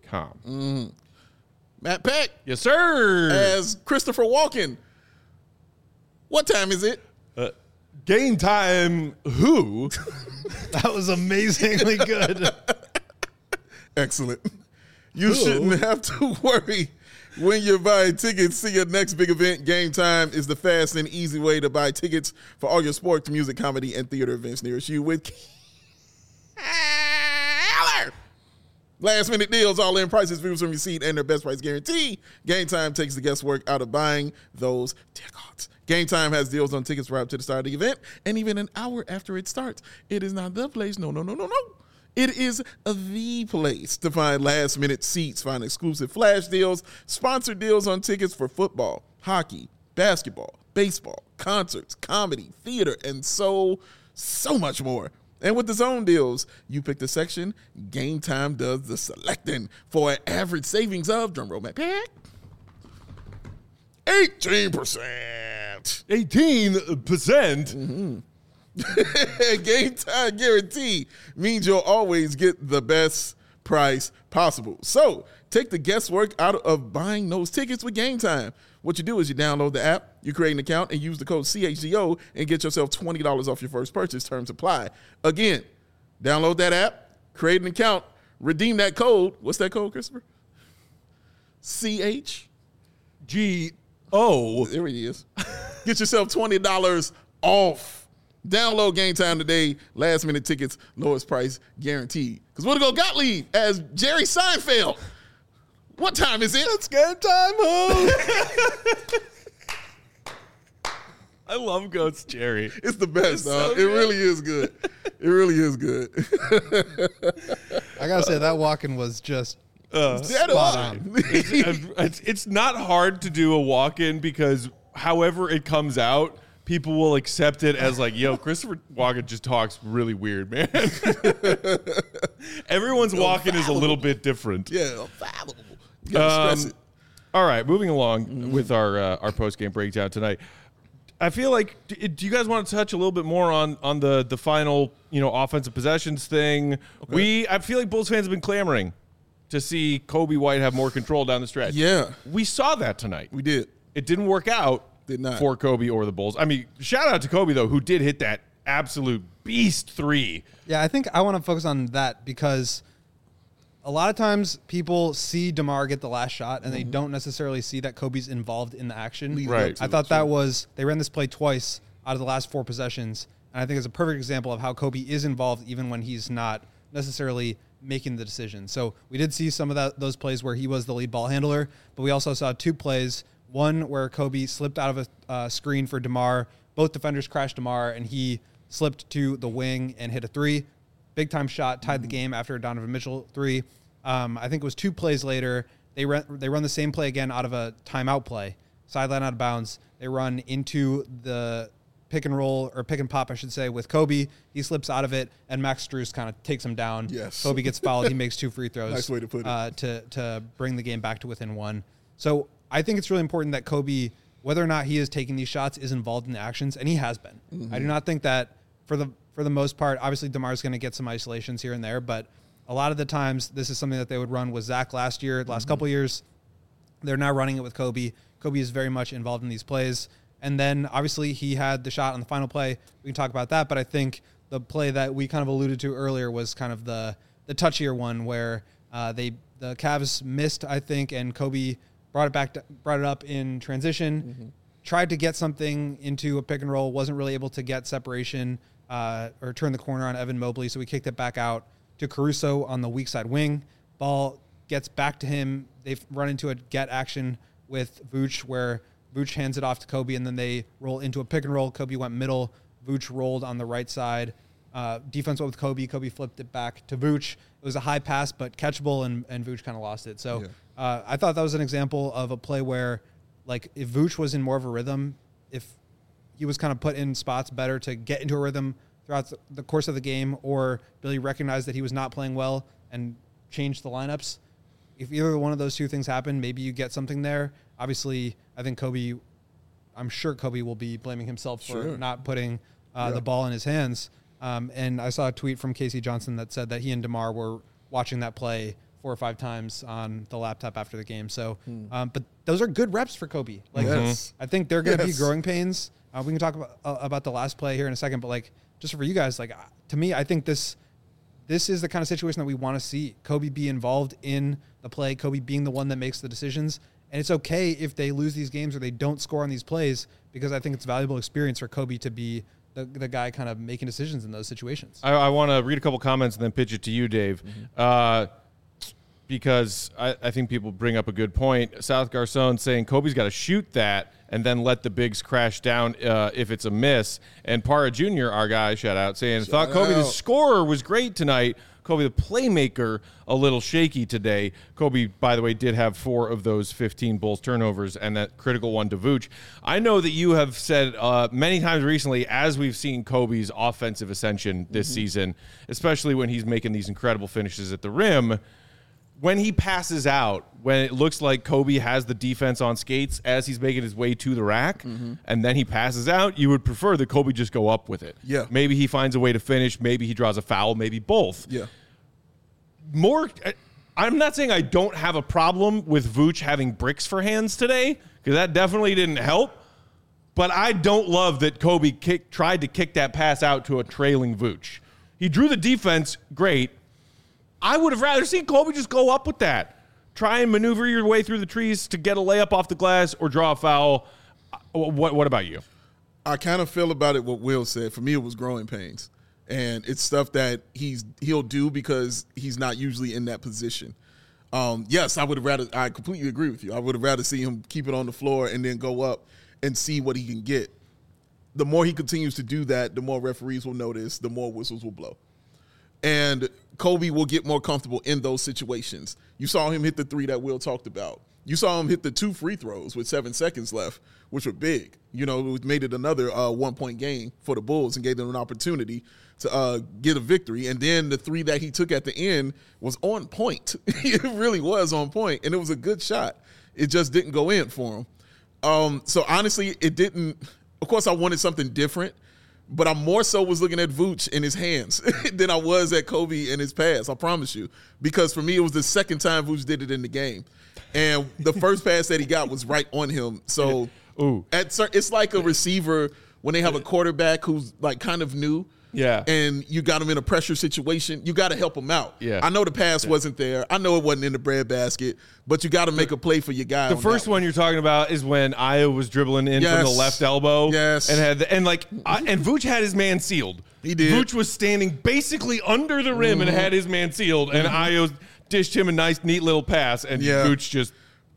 A: com.
B: Mm. Matt Peck.
A: Yes, sir.
B: As Christopher Walken. What time is it?
A: Uh, game time. Who?
C: That was amazingly good.
B: Excellent. You
A: Who?
B: shouldn't have to worry when you're buying tickets to your next big event. Game Time is the fast and easy way to buy tickets for all your sports, music, comedy, and theater events nearest you with Keller. Last minute deals, all in prices, views from your seat, and their best price guarantee. Game Time takes the guesswork out of buying those tickets. Game Time has deals on tickets right up to the start of the event, and even an hour after it starts. It is not the place. No, no, no, no, no. It is the place to find last minute seats, find exclusive flash deals, sponsored deals on tickets for football, hockey, basketball, baseball, concerts, comedy, theater, and so, so much more. And with the zone deals, you pick the section, Game Time does the selecting for an average savings of, drumroll Matt Peck, eighteen percent.
A: eighteen percent.
B: Mm-hmm. Game Time guarantee means you'll always get the best price possible. So take the guesswork out of buying those tickets with Game Time. What you do is you download the app, you create an account, and use the code C H G O and get yourself twenty dollars off your first purchase. Terms apply. Again, download that app, create an account, redeem that code. What's that code, Christopher? C H
A: G O.
B: There he is. Get yourself twenty dollars off. Download Game Time today. Last minute tickets, lowest price guaranteed. Because we're going to go Gottlieb as Jerry Seinfeld. What time is it?
A: It's game time, ho. I love Goats Jerry.
B: It's the best,
A: It's
B: dog.
A: so
B: it
A: good.
B: really is good. It really is good.
C: I gotta say that walk-in was just
A: Uh,
B: Dead
C: Spot
B: on.
C: on.
A: it's, it's, it's not hard to do a walk-in because however it comes out, people will accept it as like, yo, Christopher Walken just talks really weird, man. Everyone's walk-in is a little bit different.
B: Yeah, valuable. You got to stress
A: Um,
B: it.
A: All right, moving along with our uh, our post game breakdown tonight. I feel like do do you guys want to touch a little bit more on on the the final you know offensive possessions thing? We I feel like Bulls fans have been clamoring to see Kobe White have more control down the stretch.
B: Yeah,
A: We saw that tonight.
B: we did.
A: It didn't work out
B: Did not.
A: for Kobe or the Bulls. I mean, shout out to Kobe though, who did hit that absolute beast three.
C: Yeah, I think I want to focus on that because a lot of times people see DeMar get the last shot and
B: Mm-hmm.
C: they don't necessarily see that Kobe's involved in the action.
B: Leading
A: Right.
B: up to
C: I
B: it,
C: thought
B: sure.
C: that was, they ran this play twice out of the last four possessions. And I think it's a perfect example of how Kobe is involved even when he's not necessarily making the decision. So we did see some of that, those plays where he was the lead ball handler, but we also saw two plays. One where Kobe slipped out of a uh, screen for DeMar. Both defenders crashed DeMar, and he slipped to the wing and hit a three. Big time shot, tied the game after a Donovan Mitchell three. Um, I think it was two plays later. They run, they run the same play again out of a timeout play, sideline out of bounds. They run into the pick and roll, or pick and pop, I should say, with Kobe. He slips out of it, and Max Strus kind of takes him down.
B: Yes.
C: Kobe gets fouled. He makes two free throws.
B: Nice way to put it.
C: Uh, to, to bring the game back to within one. So I think it's really important that Kobe, whether or not he is taking these shots, is involved in the actions, and he has been.
B: Mm-hmm.
C: I do not think that for the for the most part, obviously DeMar's going to get some isolations here and there, but a lot of the times this is something that they would run with Zach last year, the last
B: Mm-hmm.
C: couple years. They're now running it with Kobe. Kobe is very much involved in these plays. And then obviously he had the shot on the final play. We can talk about that, but I think the play that we kind of alluded to earlier was kind of the the touchier one where uh, they the Cavs missed, I think, and Kobe brought it back, to, brought it up in transition,
B: Mm-hmm.
C: tried to get something into a pick and roll, wasn't really able to get separation uh, or turn the corner on Evan Mobley, so we kicked it back out to Caruso on the weak side wing. Ball gets back to him. They've run into a get action with Vooch where Vooch hands it off to Kobe, and then they roll into a pick and roll. Kobe went middle. Vooch rolled on the right side. Uh, defense went with Kobe. Kobe flipped it back to Vooch. It was a high pass, but catchable, and, and Vooch kind of lost it. So
B: Yeah.
C: uh, I thought that was an example of a play where, like, if Vooch was in more of a rhythm, if he was kind of put in spots better to get into a rhythm throughout the course of the game, or Billy recognized that he was not playing well and changed the lineups, if either one of those two things happen, maybe you get something there. Obviously, I think Kobe, I'm sure Kobe will be blaming himself for
B: Sure.
C: not putting uh,
B: Yeah.
C: the ball in his hands. Um, and I saw a tweet from Casey Johnson that said that he and DeMar were watching that play four or five times on the laptop after the game. So,
B: Hmm.
C: um, but those are good reps for Kobe. Like,
B: Yes.
C: I think they're going to
B: Yes.
C: be growing pains. Uh, we can talk about, uh, about the last play here in a second, but like, just for you guys, like, uh, to me, I think this, this is the kind of situation that we want to see Kobe be involved in the play, Kobe being the one that makes the decisions. And it's okay if they lose these games or they don't score on these plays, because I think it's valuable experience for Kobe to be the, the guy kind of making decisions in those situations.
A: I, I want to read a couple comments and then pitch it to you, Dave, uh, because I, I think people bring up a good point. South Garcon saying Kobe's got to shoot that and then let the bigs crash down uh, if it's a miss. And Para Junior, our guy, shout out, saying, thought Kobe, the
B: out.
A: scorer, was great tonight. Kobe, the playmaker, a little shaky today. Kobe, by the way, did have four of those fifteen Bulls turnovers and that critical one to Vooch. I know that you have said uh, many times recently, as we've seen Kobe's offensive ascension this
B: Mm-hmm.
A: season, especially when he's making these incredible finishes at the rim, when he passes out, when it looks like Kobe has the defense on skates as he's making his way to the rack,
B: Mm-hmm.
A: and then he passes out, you would prefer that Kobe just go up with it.
B: Yeah.
A: Maybe he finds a way to finish. Maybe he draws a foul. Maybe both.
B: Yeah.
A: More, I'm not saying I don't have a problem with Vooch having bricks for hands today, because that definitely didn't help. But I don't love that Kobe kick, tried to kick that pass out to a trailing Vooch. He drew the defense, great. I would have rather seen Kobe just go up with that. Try and maneuver your way through the trees to get a layup off the glass or draw a foul. What, what about you?
B: I kind of feel about it what Will said. For me, it was growing pains, and it's stuff that he's he'll do because he's not usually in that position. Um, yes, I would have rather. I completely agree with you. I would have rather see him keep it on the floor and then go up and see what he can get. The more he continues to do that, the more referees will notice, the more whistles will blow, and Kobe will get more comfortable in those situations. You saw him hit the three that Will talked about. You saw him hit the two free throws with seven seconds left, which were big. You know, it made it another uh, one-point game for the Bulls and gave them an opportunity to uh, get a victory. And then the three that he took at the end was on point. It really was on point, and it was a good shot. It just didn't go in for him. Um, so, honestly, it didn't – of course, I wanted something different, but I more so was looking at Vooch in his hands than I was at Kobe in his pass, I promise you. Because for me, it was the second time Vooch did it in the game. And the first pass that he got was right on him. So
A: Ooh.
B: at cer- it's like a receiver when they have a quarterback who's like kind of new.
A: Yeah.
B: And you got him in a pressure situation. You got to help him out.
A: Yeah.
B: I know the pass wasn't there. I know it wasn't in the breadbasket, but you got to make a play for your guy.
A: The
B: on
A: first
B: that
A: one you're talking about is when Io was dribbling in from the
B: Yes.
A: left elbow.
B: Yes.
A: And had the, and like I, and Vooch had his man sealed.
B: He did.
A: Vooch was standing basically under the rim and had his man sealed, and Io dished him a nice, neat little pass, and
B: Yeah.
A: Vooch just.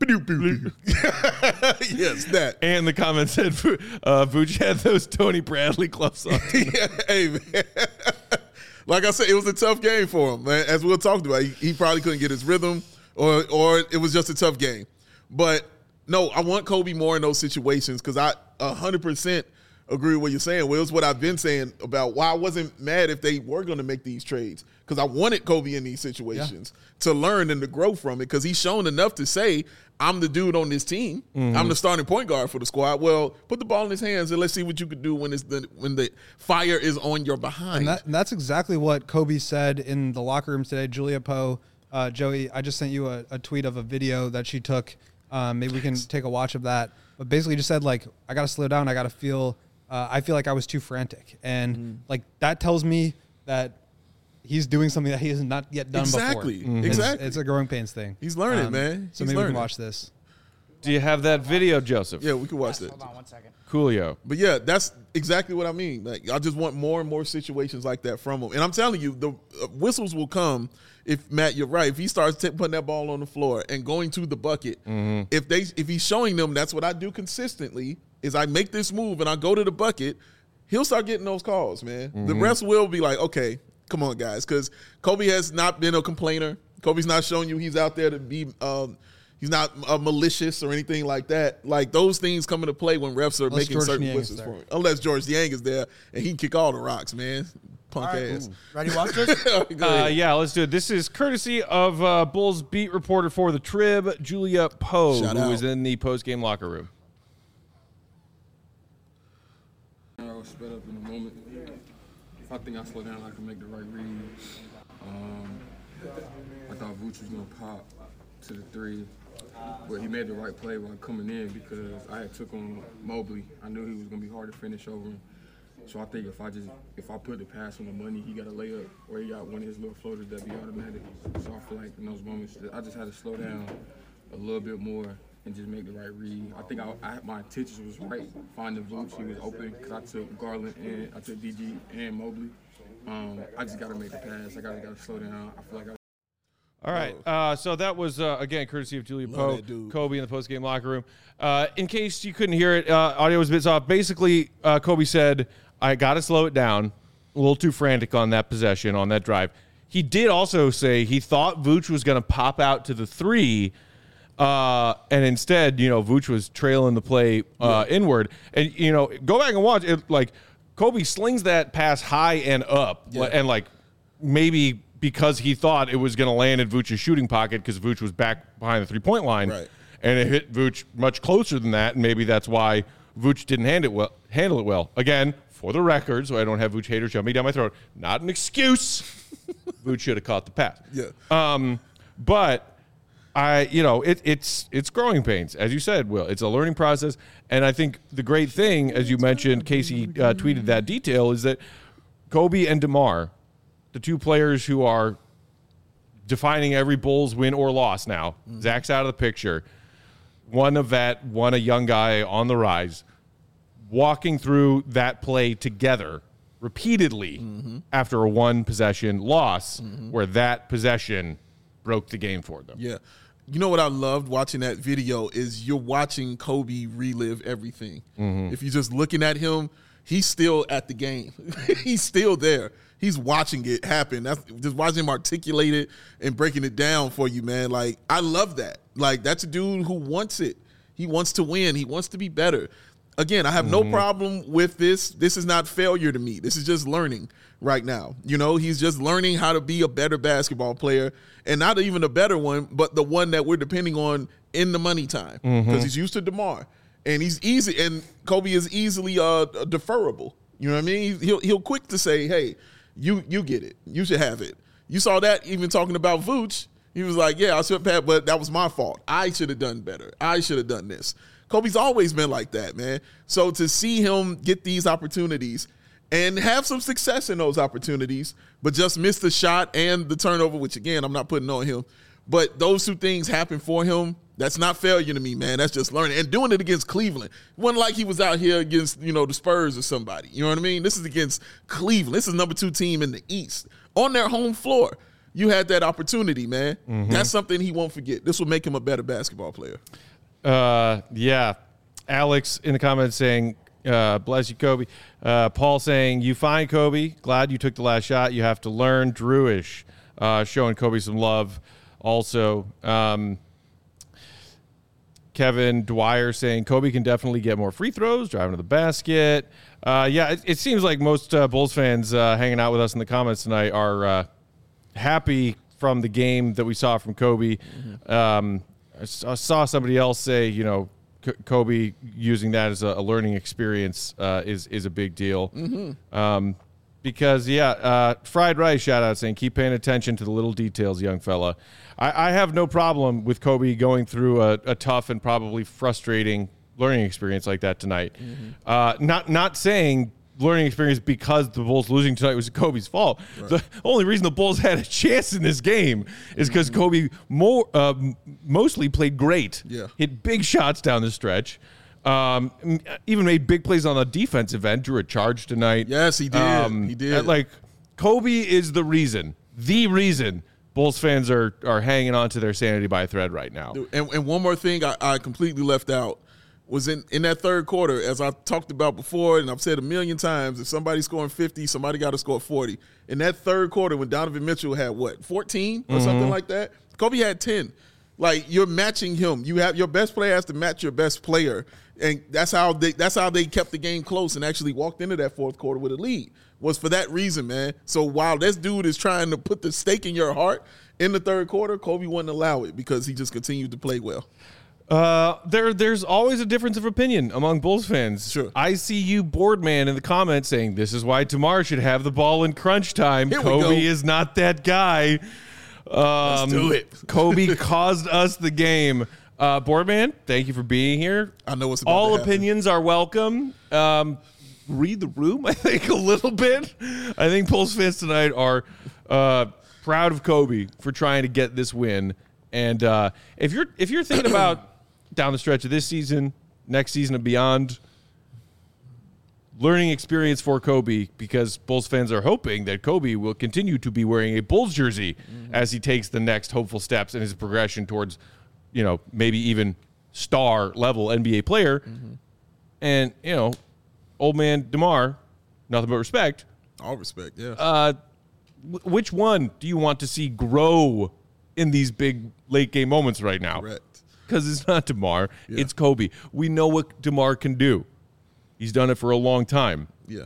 B: Yes, that.
A: And the comment said uh, Vooch had those Tony Bradley gloves on.
B: Yeah, hey, man. Like I said, it was a tough game for him. Man. As Will talked about, he, he probably couldn't get his rhythm, or or it was just a tough game. But no, I want Kobe more in those situations because I one hundred percent agree with what you're saying, Will. It's what I've been saying about why I wasn't mad if they were going to make these trades, because I wanted Kobe in these situations yeah. to learn and to grow from it, because he's shown enough to say, I'm the dude on this team. Mm-hmm. I'm the starting point guard for the squad. Well, put the ball in his hands and let's see what you could do when it's the when the fire is on your behind.
C: And, that, and that's exactly what Kobe said in the locker rooms today. Julia Poe, uh, Joey, I just sent you a, a tweet of a video that she took. Um, maybe we can take a watch of that. But basically just said, like, I got to slow down. I got to feel uh, – I feel like I was too frantic. And, mm. like, that tells me that he's doing something that he has not yet done
B: exactly.
C: before.
B: Mm-hmm. Exactly.
C: It's, it's a growing pains thing.
B: He's learning,
C: um,
B: man.
C: So
B: he's
C: maybe
B: learning.
C: we can watch this.
A: Do you have that video, Joseph?
B: Yeah, we can watch
D: yes,
B: that.
D: Hold on one second.
A: Coolio.
B: But yeah, that's exactly what I mean. Like, I just want more and more situations like that from him. And I'm telling you, the uh, whistles will come if, Matt, you're right. If he starts t- putting that ball on the floor and going to the bucket, mm-hmm. if they if he's showing them that's what I do consistently, is I make this move and I go to the bucket, he'll start getting those calls, man. Mm-hmm. The rest will be like, okay, come on, guys, because Kobe has not been a complainer. Kobe's not showing you he's out there to be um, – he's not uh, malicious or anything like that. Like, those things come into play when refs are
C: Unless
B: making
C: George
B: certain
C: Niang
B: whistles for him. Unless George Niang is there, and he can kick all the rocks, man. Punk
D: Right,
B: ass.
D: ooh. Ready to watch this?
A: Uh, yeah, let's do it. This is courtesy of uh, Bulls beat reporter for the Trib, Julia Poe,
B: Shout
A: who
B: out.
A: was in the post-game locker room.
E: I was sped up in the moment. If I think I slow down, I can make the right read. Um, I thought Vooch was gonna pop to the three, but he made the right play while coming in because I had took on Mobley. I knew he was gonna be hard to finish over him. So I think if I just if I put the pass on the money, he got a layup or he got one of his little floaters that be automatic. So I feel like in those moments, I just had to slow down a little bit more and just make the right read. I think I, I my intentions was right, finding Vooch. He was open because I took Garland and I took D G and Mobley. Um, I just got to make the pass. I got to slow down. I feel like I
A: All right. Uh, so that was, uh, again, courtesy of Julia
B: Love
A: Poe,
B: that dude.
A: Kobe in the post-game locker room. Uh, in case you couldn't hear it, uh, audio was a bit soft. Basically, uh, Kobe said, I got to slow it down. A little too frantic on that possession, on that drive. He did also say he thought Vooch was going to pop out to the three, uh, and instead, you know, Vooch was trailing the play uh, yeah. inward. And, you know, go back and watch it. Like, Kobe slings that pass high and up,
B: Yeah.
A: and, like, maybe – because he thought it was going to land in Vooch's shooting pocket because Vooch was back behind the three-point line.
B: Right.
A: And it hit Vooch much closer than that, and maybe that's why Vooch didn't hand it well, handle it well. Again, for the record, so I don't have Vooch haters shove me down my throat, not an excuse. Vooch should have caught the pass.
B: Yeah.
A: Um, but I, you know, it, it's it's growing pains, as you said, Will. It's a learning process, and I think the great thing, as you mentioned, Casey uh, tweeted that detail, is that Kobe and DeMar, the two players who are defining every Bulls win or loss now. Mm-hmm. Zach's out of the picture. One a vet, one a young guy on the rise, walking through that play together repeatedly mm-hmm. after a one-possession loss mm-hmm. where that possession broke the game for them.
B: Yeah. You know what I loved watching that video is you're watching Kobe relive everything. Mm-hmm. If you're just looking at him, he's still at the game. He's still there. He's watching it happen. That's just watching him articulate it and breaking it down for you, man. Like, I love that. Like, that's a dude who wants it. He wants to win. He wants to be better. Again, I have mm-hmm. no problem with this. This is not failure to me. This is just learning right now. You know, he's just learning how to be a better basketball player, and not even a better one, but the one that we're depending on in the money time because mm-hmm. he's used to DeMar, and he's easy. And Kobe is easily uh, deferrable. You know what I mean? He'll he'll quick to say, hey, You you get it. You should have it. You saw that even talking about Vooch. He was like, yeah, I should have, but that was my fault. I should have done better. I should have done this. Kobe's always been like that, man. So to see him get these opportunities and have some success in those opportunities, but just miss the shot and the turnover, which, again, I'm not putting on him. But those two things happen for him. That's not failure to me, man. That's just learning. And doing it against Cleveland. It wasn't like he was out here against, you know, the Spurs or somebody. You know what I mean? This is against Cleveland. This is number two team in the East. On their home floor, you had that opportunity, man. Mm-hmm. That's something he won't forget. This will make him a better basketball player.
A: Uh, yeah. Alex in the comments saying, uh, bless you, Kobe. Uh, Paul saying, you fine, Kobe. Glad you took the last shot. You have to learn. Drewish uh, showing Kobe some love also. Um Kevin Dwyer saying Kobe can definitely get more free throws, driving to the basket. Uh, yeah, it, it seems like most uh, Bulls fans uh, hanging out with us in the comments tonight are uh, happy from the game that we saw from Kobe. Mm-hmm. Um, I, I saw somebody else say, you know, C- Kobe using that as a, a learning experience uh, is is a big deal. Mm-hmm. Um, because, yeah, uh, Fried Rice shout out saying, keep paying attention to the little details, young fella. I, I have no problem with Kobe going through a, a tough and probably frustrating learning experience like that tonight. Mm-hmm. Uh, not not saying learning experience because the Bulls losing tonight was Kobe's fault. Right. The only reason the Bulls had a chance in this game is because mm-hmm. Kobe more uh, mostly played great.
B: Yeah.
A: Hit big shots down the stretch. Um, even made big plays on the defensive end. Drew a charge tonight.
B: Yes, he did.
A: Um,
B: he did.
A: Like, Kobe is the reason, the reason Bulls fans are are hanging on to their sanity by a thread right now.
B: And, and one more thing I, I completely left out was in, in that third quarter, as I talked about before, and I've said a million times, if somebody's scoring fifty, somebody got to score forty. In that third quarter, when Donovan Mitchell had, what, fourteen or mm-hmm. something like that, Kobe had ten. Like, you're matching him. You have your best player has to match your best player, and that's how they that's how they kept the game close and actually walked into that fourth quarter with a lead. Was for that reason, man. So while this dude is trying to put the stake in your heart in the third quarter, Kobe wouldn't allow it because he just continued to play well.
A: Uh, there, there's always a difference of opinion among Bulls fans.
B: Sure.
A: I see you, board man, in the comments saying this is why DeMar should have the ball in crunch time.
B: Here we
A: Kobe
B: go.
A: is not that guy. Um,
B: Let's do it.
A: Kobe caused us the game. Uh, Boardman, thank you for being here.
B: I know what's about
A: All
B: to happen.
A: opinions are welcome. Um, read the room, I think, a little bit. I think Bulls fans tonight are uh, proud of Kobe for trying to get this win. And uh, if you're if you're thinking about down the stretch of this season, next season and beyond, learning experience for Kobe, because Bulls fans are hoping that Kobe will continue to be wearing a Bulls jersey mm-hmm. as he takes the next hopeful steps in his progression towards, you know, maybe even star level N B A player. Mm-hmm. And, you know, old man DeMar, nothing but respect.
B: All respect, yeah.
A: Uh, w- which one do you want to see grow in these big late game moments right now?
B: Correct.
A: Because it's not DeMar,
B: Yeah.
A: it's Kobe. We know what DeMar can do. He's done it for a long time.
B: Yeah.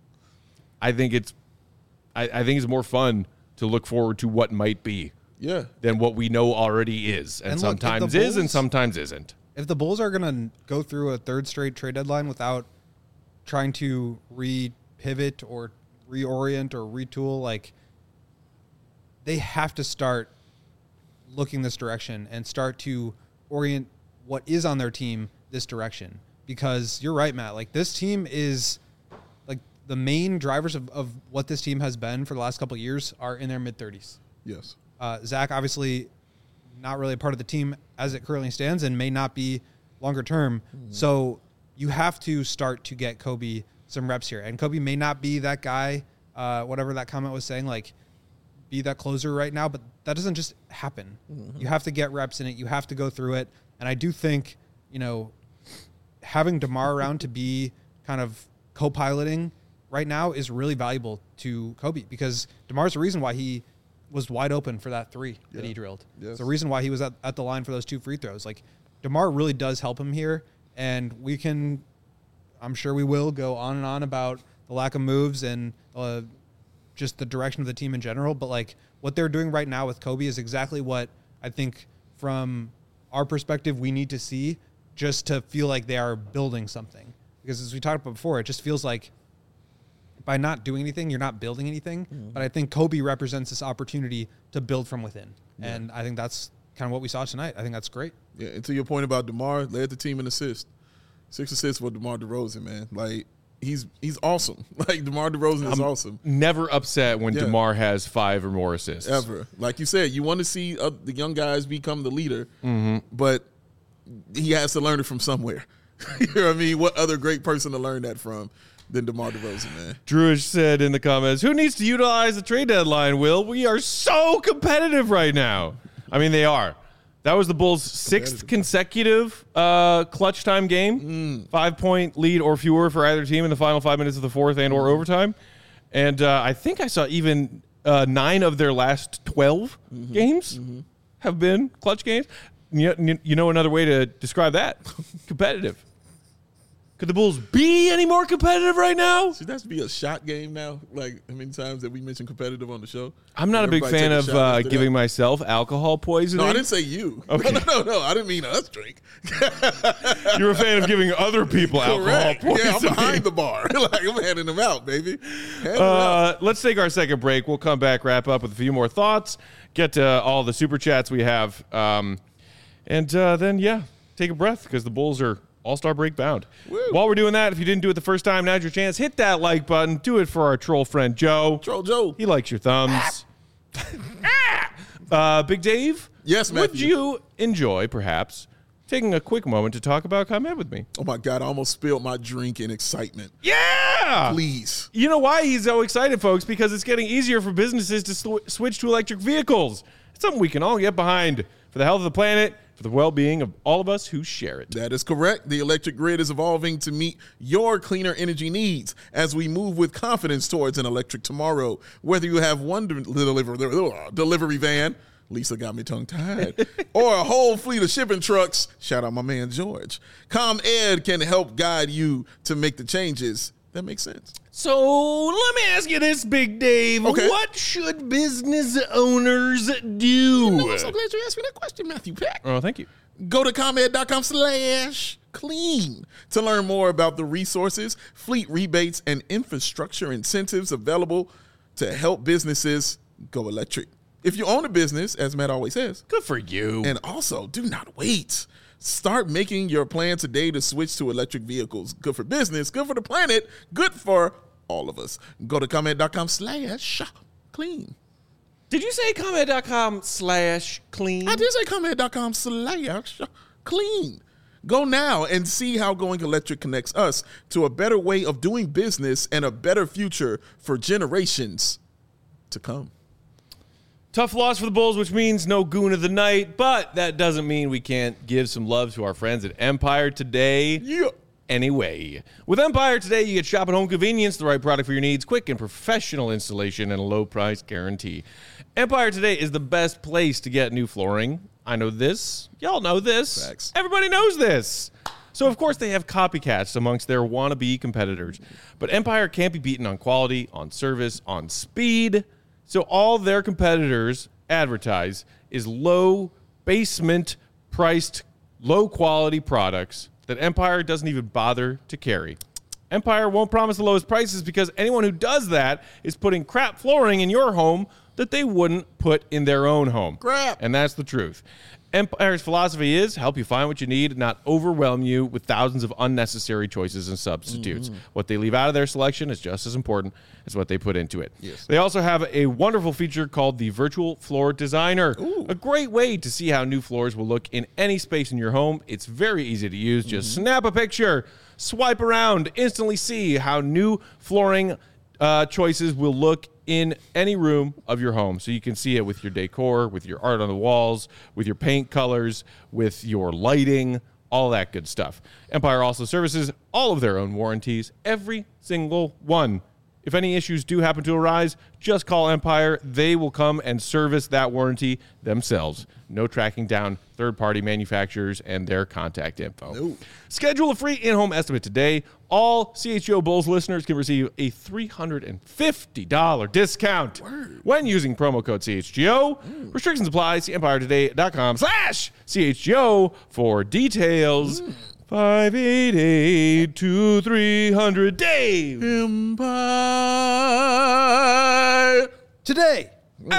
A: I think it's, I, I think it's more fun to look forward to what might be
B: Yeah.
A: than what we know already is, and,
C: And look, if the
A: sometimes is and
C: Bulls-
A: sometimes isn't.
C: If the Bulls are going to go through a third straight trade deadline without trying to re-pivot or reorient or retool, like, they have to start looking this direction and start to orient what is on their team this direction. Because you're right, Matt. Like, this team is, like, the main drivers of, of what this team has been for the last couple of years are in their mid-thirties.
B: Yes.
C: Uh, Zach, obviously, not really a part of the team as it currently stands and may not be longer term. Mm-hmm. So you have to start to get Kobe some reps here. And Kobe may not be that guy, uh, whatever that comment was saying, like, be that closer right now, but that doesn't just happen. Mm-hmm. You have to get reps in it. You have to go through it. And I do think, you know, having DeMar around to be kind of co-piloting right now is really valuable to Kobe, because DeMar's the reason why he was wide open for that three that
B: Yeah.
C: he drilled.
B: Yes.
C: It's the reason why he was at, at the line for those two free throws. Like, DeMar really does help him here, and we can, I'm sure we will, go on and on about the lack of moves and uh, just the direction of the team in general. But, like, what they're doing right now with Kobe is exactly what I think from our perspective we need to see, just to feel like they are building something. Because as we talked about before, it just feels like by not doing anything, you're not building anything. Mm-hmm. But I think Kobe represents this opportunity to build from within. Yeah. And I think that's kind of what we saw tonight. I think that's great.
B: Yeah, and to your point about DeMar, led the team in assists. Six assists for DeMar DeRozan, man. Like, he's he's awesome. Like, DeMar DeRozan is
A: I'm
B: awesome.
A: Never upset when
B: Yeah.
A: DeMar has five or more assists.
B: Ever. Like you said, you want to see uh, the young guys become the leader,
A: Mm-hmm.
B: but he has to learn it from somewhere. You know what I mean? What other great person to learn that from than DeMar DeRozan, man?
A: Drewish said in the comments, who needs to utilize the trade deadline, Will? We are so competitive right now. I mean, they are. That was the Bulls' sixth consecutive uh, clutch time game. Mm. Five-point lead or fewer for either team in the final five minutes of the fourth and or overtime. And uh, I think I saw even uh, nine of their last twelve mm-hmm. games mm-hmm. have been clutch games. You, you know another way to describe that? Competitive. Could the Bulls be any more competitive right now?
B: Should that be a shot game now? Like, how many times that we mentioned competitive on the show?
A: I'm not a big fan of uh, giving that? myself alcohol poisoning.
B: No, I didn't say you.
A: Okay.
B: No, no, no, I didn't mean us drink.
A: You're a fan of giving other people alcohol poisoning.
B: Yeah, I'm behind the bar. Like, I'm handing them out, baby. Hand
A: Uh,
B: out.
A: Let's take our second break. We'll come back, wrap up with a few more thoughts, get to all the super chats we have, um, and uh, then, yeah, take a breath because the Bulls are All-Star break bound. Woo. While we're doing that, if you didn't do it the first time, now's your chance. Hit that like button. Do it for our troll friend, Joe.
B: Troll Joe.
A: He likes your thumbs. uh, Big Dave?
B: Yes, Matthew.
A: Would you enjoy, perhaps, taking a quick moment to talk about ComEd with me?
B: Oh, my God. I almost spilled my drink in excitement.
A: Yeah!
B: Please.
A: You know why he's so excited, folks? Because it's getting easier for businesses to sw- switch to electric vehicles. It's something we can all get behind for the health of the planet, for the well-being of all of us who share it.
B: That is correct. The electric grid is evolving to meet your cleaner energy needs as we move with confidence towards an electric tomorrow. Whether you have one de- delivery, delivery van, Lisa got me tongue-tied, or a whole fleet of shipping trucks, shout out my man George, ComEd can help guide you to make the changes that make sense.
A: So let me ask you this, Big Dave.
B: Okay.
A: What should business owners do?
B: No, I'm so glad you asked me that question, Matthew Peck.
A: Oh, thank you.
B: Go to ComEd.com slash clean to learn more about the resources, fleet rebates, and infrastructure incentives available to help businesses go electric. If you own a business, as Matt always says,
A: Good for you.
B: and also do not wait. Start making your plan today to switch to electric vehicles. Good for business, good for the planet, good for all of us. Go to ComEd.com slash clean.
A: Did you say ComEd.com slash clean?
B: I did say ComEd.com slash clean. Go now and see how going electric connects us to a better way of doing business and a better future for generations to come.
A: Tough loss for the Bulls, which means no goon of the night, but that doesn't mean we can't give some love to our friends at Empire today.
B: Yeah.
A: Anyway, with Empire today, you get shop at home convenience, the right product for your needs, quick and professional installation, and a low price guarantee. Empire today is the best place to get new flooring. I know this. Y'all know this.
B: Facts.
A: Everybody knows this. So, of course, they have copycats amongst their wannabe competitors. But Empire can't be beaten on quality, on service, on speed. So all their competitors advertise is low basement priced, low quality products that Empire doesn't even bother to carry. Empire won't promise the lowest prices because anyone who does that is putting crap flooring in your home that they wouldn't put in their own home.
B: Crap.
A: And that's the truth. Empire's philosophy is help you find what you need, not overwhelm you with thousands of unnecessary choices and substitutes. Mm-hmm. What they leave out of their selection is just as important as what they put into it.
B: Yes.
A: They also have a wonderful feature called the Virtual Floor Designer,
B: Ooh.
A: a great way to see how new floors will look in any space in your home. It's very easy to use. Just mm-hmm. snap a picture, swipe around, instantly see how new flooring uh, choices will look in any room of your home. So you can see it with your decor, with your art on the walls, with your paint colors, with your lighting, all that good stuff. Empire also services all of their own warranties, every single one. If any issues do happen to arise, just call Empire. They will come and service that warranty themselves. No tracking down third-party manufacturers and their contact info.
B: No.
A: Schedule a free in-home estimate today. All C H G O Bulls listeners can receive a three hundred fifty dollars discount
B: Word.
A: when using promo code C H G O. Mm. Restrictions apply. See empiretoday.com slash CHGO for details. Mm. five eight eight, two three hundred Dave.
B: Empire.
C: Today.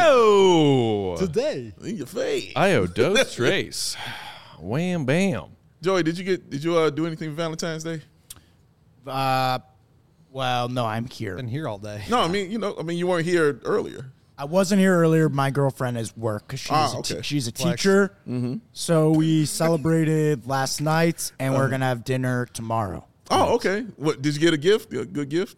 A: Oh.
C: Today.
B: In your face.
A: Io dos trace. Wham bam.
B: Joey, did you get did you uh, do anything for Valentine's Day?
D: Uh, well, no, I'm here.
C: Been here all day.
B: No, I mean, you know, I mean you weren't here earlier.
D: I wasn't here earlier. My girlfriend is work because she's,
B: Ah,
D: a
B: okay.
D: te- she's a
C: Flex.
D: teacher. Mm-hmm. So we celebrated last night, and we're going to have dinner tomorrow.
B: Oh, okay. What did you get a gift? A good gift?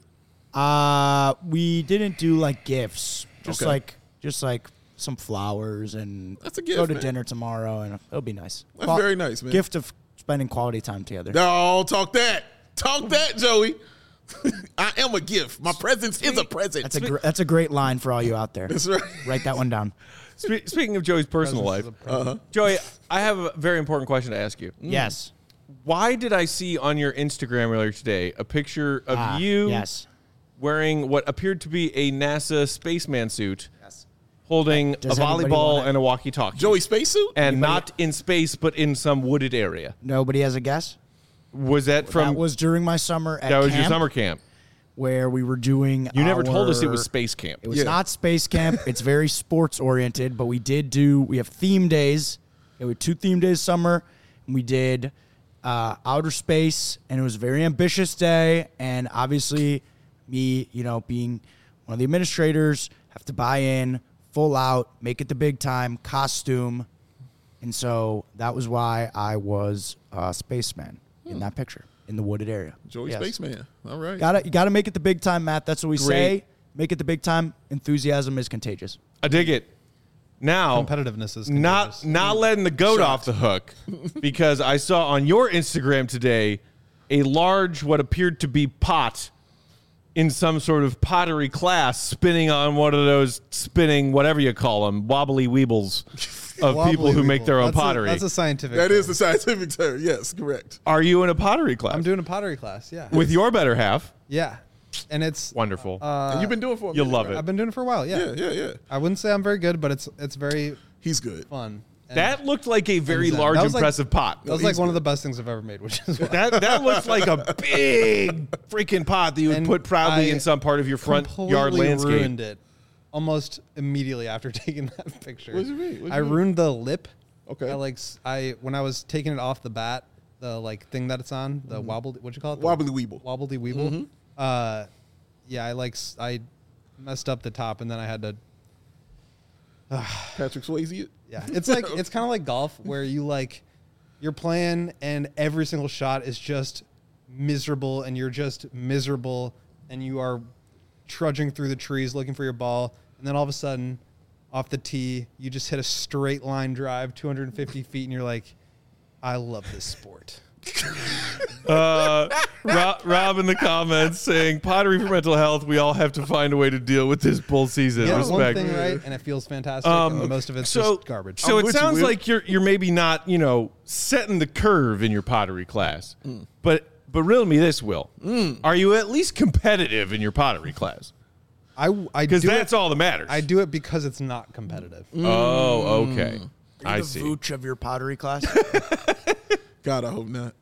D: Uh, we didn't do like gifts, just
B: Okay.
D: like just like some flowers, and
B: That's a gift,
D: go to
B: man.
D: dinner tomorrow, and it'll be nice.
B: That's very nice, man.
D: Gift of spending quality time together.
B: No, talk that. Talk that, Joey. I am a gift. My presence is a present.
D: That's a gr- that's a great line for all you out there.
B: That's right.
D: Write that one down.
A: Spe- speaking of Joey's personal life,
B: Uh-huh.
A: Joey, I have a very important question to ask you.
D: Yes.
A: Why did I see on your Instagram earlier today a picture of
D: Ah,
A: you
D: Yes.
A: wearing what appeared to be a NASA spaceman suit, holding
D: Does
A: a
D: anybody
A: volleyball
D: wanna-
A: and a walkie-talkie?
B: Joey spacesuit?
A: and
D: Anybody-
A: not in space, but in some wooded area.
D: Nobody has a guess.
A: Was that from?
D: that was during my summer at
A: that was your
D: camp,
A: summer camp.
D: where we were doing.
A: You never told us it
D: our-
A: was space camp.
D: It was
B: Yeah.
D: not space camp. It's very sports oriented, but we did do. We have theme days. There were two theme days summer, and we did uh, outer space, and it was a very ambitious day. And obviously, me, you know, being one of the administrators, have to buy in, full out, make it the big time, costume, and so that was why I was a spaceman in that picture in the wooded area.
B: Joey
D: Yes.
B: spaceman. All right.
D: Got to you got to make it the big time, Matt. That's what we
A: Great.
D: say. Make it the big time. Enthusiasm is contagious.
A: I dig it. Now,
C: Competitiveness is
A: not
C: contagious.
A: not letting the goat off the hook, because I saw on your Instagram today a large, what appeared to be pot in some sort of pottery class, spinning on one of those spinning, whatever you call them, wobbly weebles of
C: Wobbly
A: people who make
C: weeble.
A: their own
C: That's a-
A: pottery.
C: that's a scientific
B: That
C: term.
B: is the scientific term. Yes, correct.
A: Are you in a pottery class?
C: I'm doing a pottery class, yeah.
A: with your better half.
C: Yeah. And it's
A: Wonderful.
C: uh,
B: and you've been doing it for a
A: you'll
B: minute,
A: love
B: right?
A: it.
C: I've been doing it for a while, yeah.
B: Yeah, yeah, yeah.
C: I wouldn't say I'm very good, but it's it's very
B: He's good.
C: fun. And
A: that looked like a very
C: And, uh,
A: large,
C: that was like-
A: impressive pot.
C: that was
B: he's
C: like one
B: good.
C: of the best things I've ever made, which is why
A: That that looks like a big freaking pot that you would
C: And
A: put proudly
C: I
A: in some part of your front yard
C: completely
A: landscape.
C: ruined it almost immediately after taking that picture.
B: What do you mean? What do
C: I
B: you mean?
C: ruined the lip.
B: Okay.
C: I like s- I when I was taking it off the bat, the like thing that it's on, the wobble. What'd you call it? The
B: Wobbly Weeble.
C: Wobbledy Weeble. Uh, yeah, I like s- I messed up the top, and then I had to.
B: Patrick Swayze. It?
C: Yeah, it's like it's kind of like golf where you like you're playing and every single shot is just miserable, and you're just miserable, and you are trudging through the trees looking for your ball, and then all of a sudden, off the tee, you just hit a straight line drive, two hundred fifty feet, and you're like, I love this sport.
A: Uh, Rob, Rob in the comments saying, pottery for mental health. We all have to find a way to deal with this bull season.
C: Get
A: Respect.
C: one thing right, and it feels fantastic,
A: Um,
C: and most of it's
A: so,
C: just garbage.
A: So
B: I'm
A: it
B: with you,
A: sounds
B: Will.
A: like you're you're maybe not, you know, setting the curve in your pottery class.
B: Mm.
A: But but riddle me this, Will. Are you at least competitive in your pottery class?
C: I I
A: Because
C: do
A: that's
C: it,
A: all that matters.
C: I do it because it's not competitive.
A: Oh, okay.
D: Are you
A: I
D: the
A: see.
D: Vooch of your pottery class?
B: God, I hope not.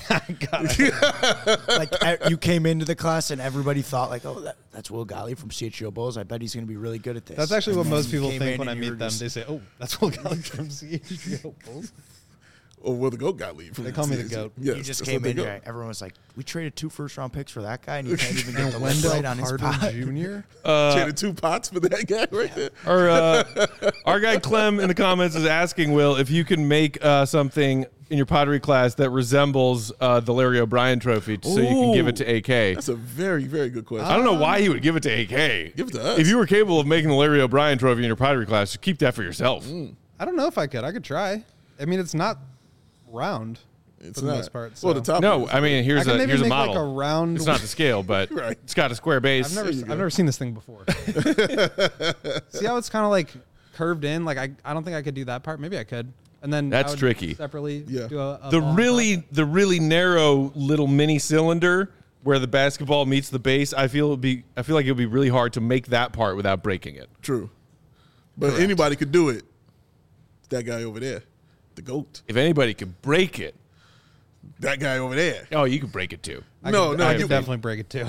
D: Like uh, you came into the class and everybody thought like, oh, that, that's Will Golly from C H G O Bulls. I bet he's going to be really good at this.
C: That's actually
D: And
C: what
D: then
C: most
D: you
C: people
D: came
C: think
D: in
C: when I
D: and you
C: meet
D: were
C: them.
D: just-
C: They say, "Oh, that's Will Golly from C H G O Bulls."
B: Or will the goat got leave?
C: They call me the goat.
B: Yes,
D: you just
B: that's
D: came
B: what they
D: in
B: go.
D: here. Everyone was like, we traded two first round picks for that guy, and you can't even get the
C: And
D: left
C: Wendell
D: right on his
C: Carter
D: pot.
C: Junior
B: Traded two pots for that guy right there.
A: Our, uh, our guy Clem in the comments is asking, Will, if you can make uh, something in your pottery class that resembles uh, the Larry O'Brien trophy so you can give it to A K.
B: That's a very, very good question.
A: I don't know why he would give it to A K.
B: Give it to us.
A: If you were capable of making the Larry O'Brien trophy in your pottery class, just keep that for yourself.
C: I don't know if I could. I could try. I mean, it's not round
B: it's
C: for the
B: not.
C: most part.
B: Well,
C: so.
B: the top.
A: No,
B: is.
A: I mean,
C: I
A: here's
C: can
A: a
C: maybe
A: here's a
C: make
A: model.
C: like a round.
A: It's not the scale, but
B: Right.
A: it's got a square base.
C: I've never,
B: you
C: I've
B: go.
C: never seen this thing before. See how it's kind of like curved in? Like I, I don't think I could do that part. Maybe I could. And then
A: That's
C: I would
A: tricky.
C: Separately,
B: Yeah.
C: do a, a
A: the
C: ball on
A: really
C: top.
A: the really narrow little mini cylinder where the basketball meets the base, I feel it would be I feel like it would be really hard to make that part without breaking it.
B: True. But anybody could do it. It's that guy over there, the goat.
A: If anybody could break it,
B: That guy over there.
A: oh, you could break it too.
C: I
B: no,
C: could,
B: no,
C: I
B: you
C: could definitely break it too.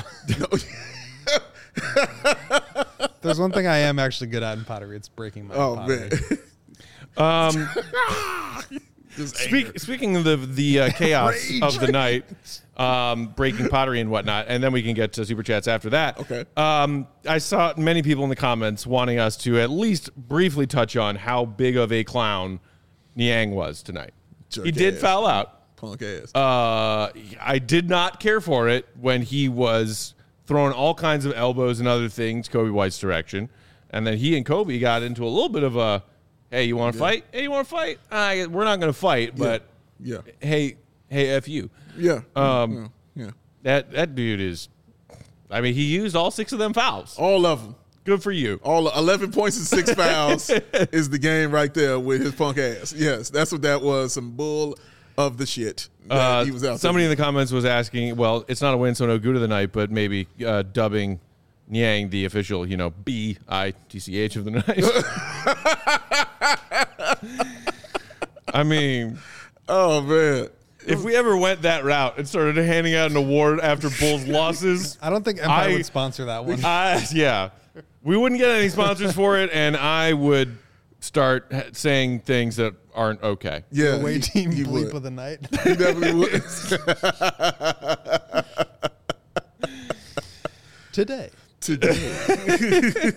C: There's one thing I am actually good at in pottery. It's breaking my
B: Oh
C: pottery.
B: man.
A: Um,
B: Just
A: speak,
B: anger.
A: speaking of the the uh, chaos
B: Rage.
A: of the night, um, breaking pottery and whatnot, and then we can get to super chats after that.
B: Okay.
A: Um, I saw many people in the comments wanting us to at least briefly touch on how big of a clown Niang was tonight.
B: Jerk
A: he did
B: ass.
A: foul out.
B: Punk ass.
A: Uh, I did not care for it when he was throwing all kinds of elbows and other things Kobe White's direction, and then he and Kobe got into a little bit of a, hey, you want to fight? Hey, you want to fight? Uh, we're not going to fight, but
B: yeah.
A: hey, hey, F you.
B: Yeah.
A: Um,
B: yeah. yeah.
A: That that dude is, I mean, he used all six of them fouls.
B: All of them.
A: Good for you.
B: All eleven points and six fouls is the game right there with his punk ass. Yes, that's what that was. Some bull of the shit that
A: Uh,
B: he was out
A: somebody in
B: there.
A: the comments was asking, well, it's not a win, so no good of the night, but maybe uh, dubbing Niang the official, you know, B I T C H of the night. I mean,
B: Oh man.
A: if we ever went that route and started handing out an award after Bulls losses,
C: I don't think Empire
A: I-
C: would sponsor that one.
A: I, yeah, we wouldn't get any sponsors for it, and I would start ha- saying things that aren't okay.
B: Yeah.
C: Away
B: he-
C: team
B: he
C: bleep
B: would.
C: of the night.
B: He definitely would.
C: Today.
B: Today.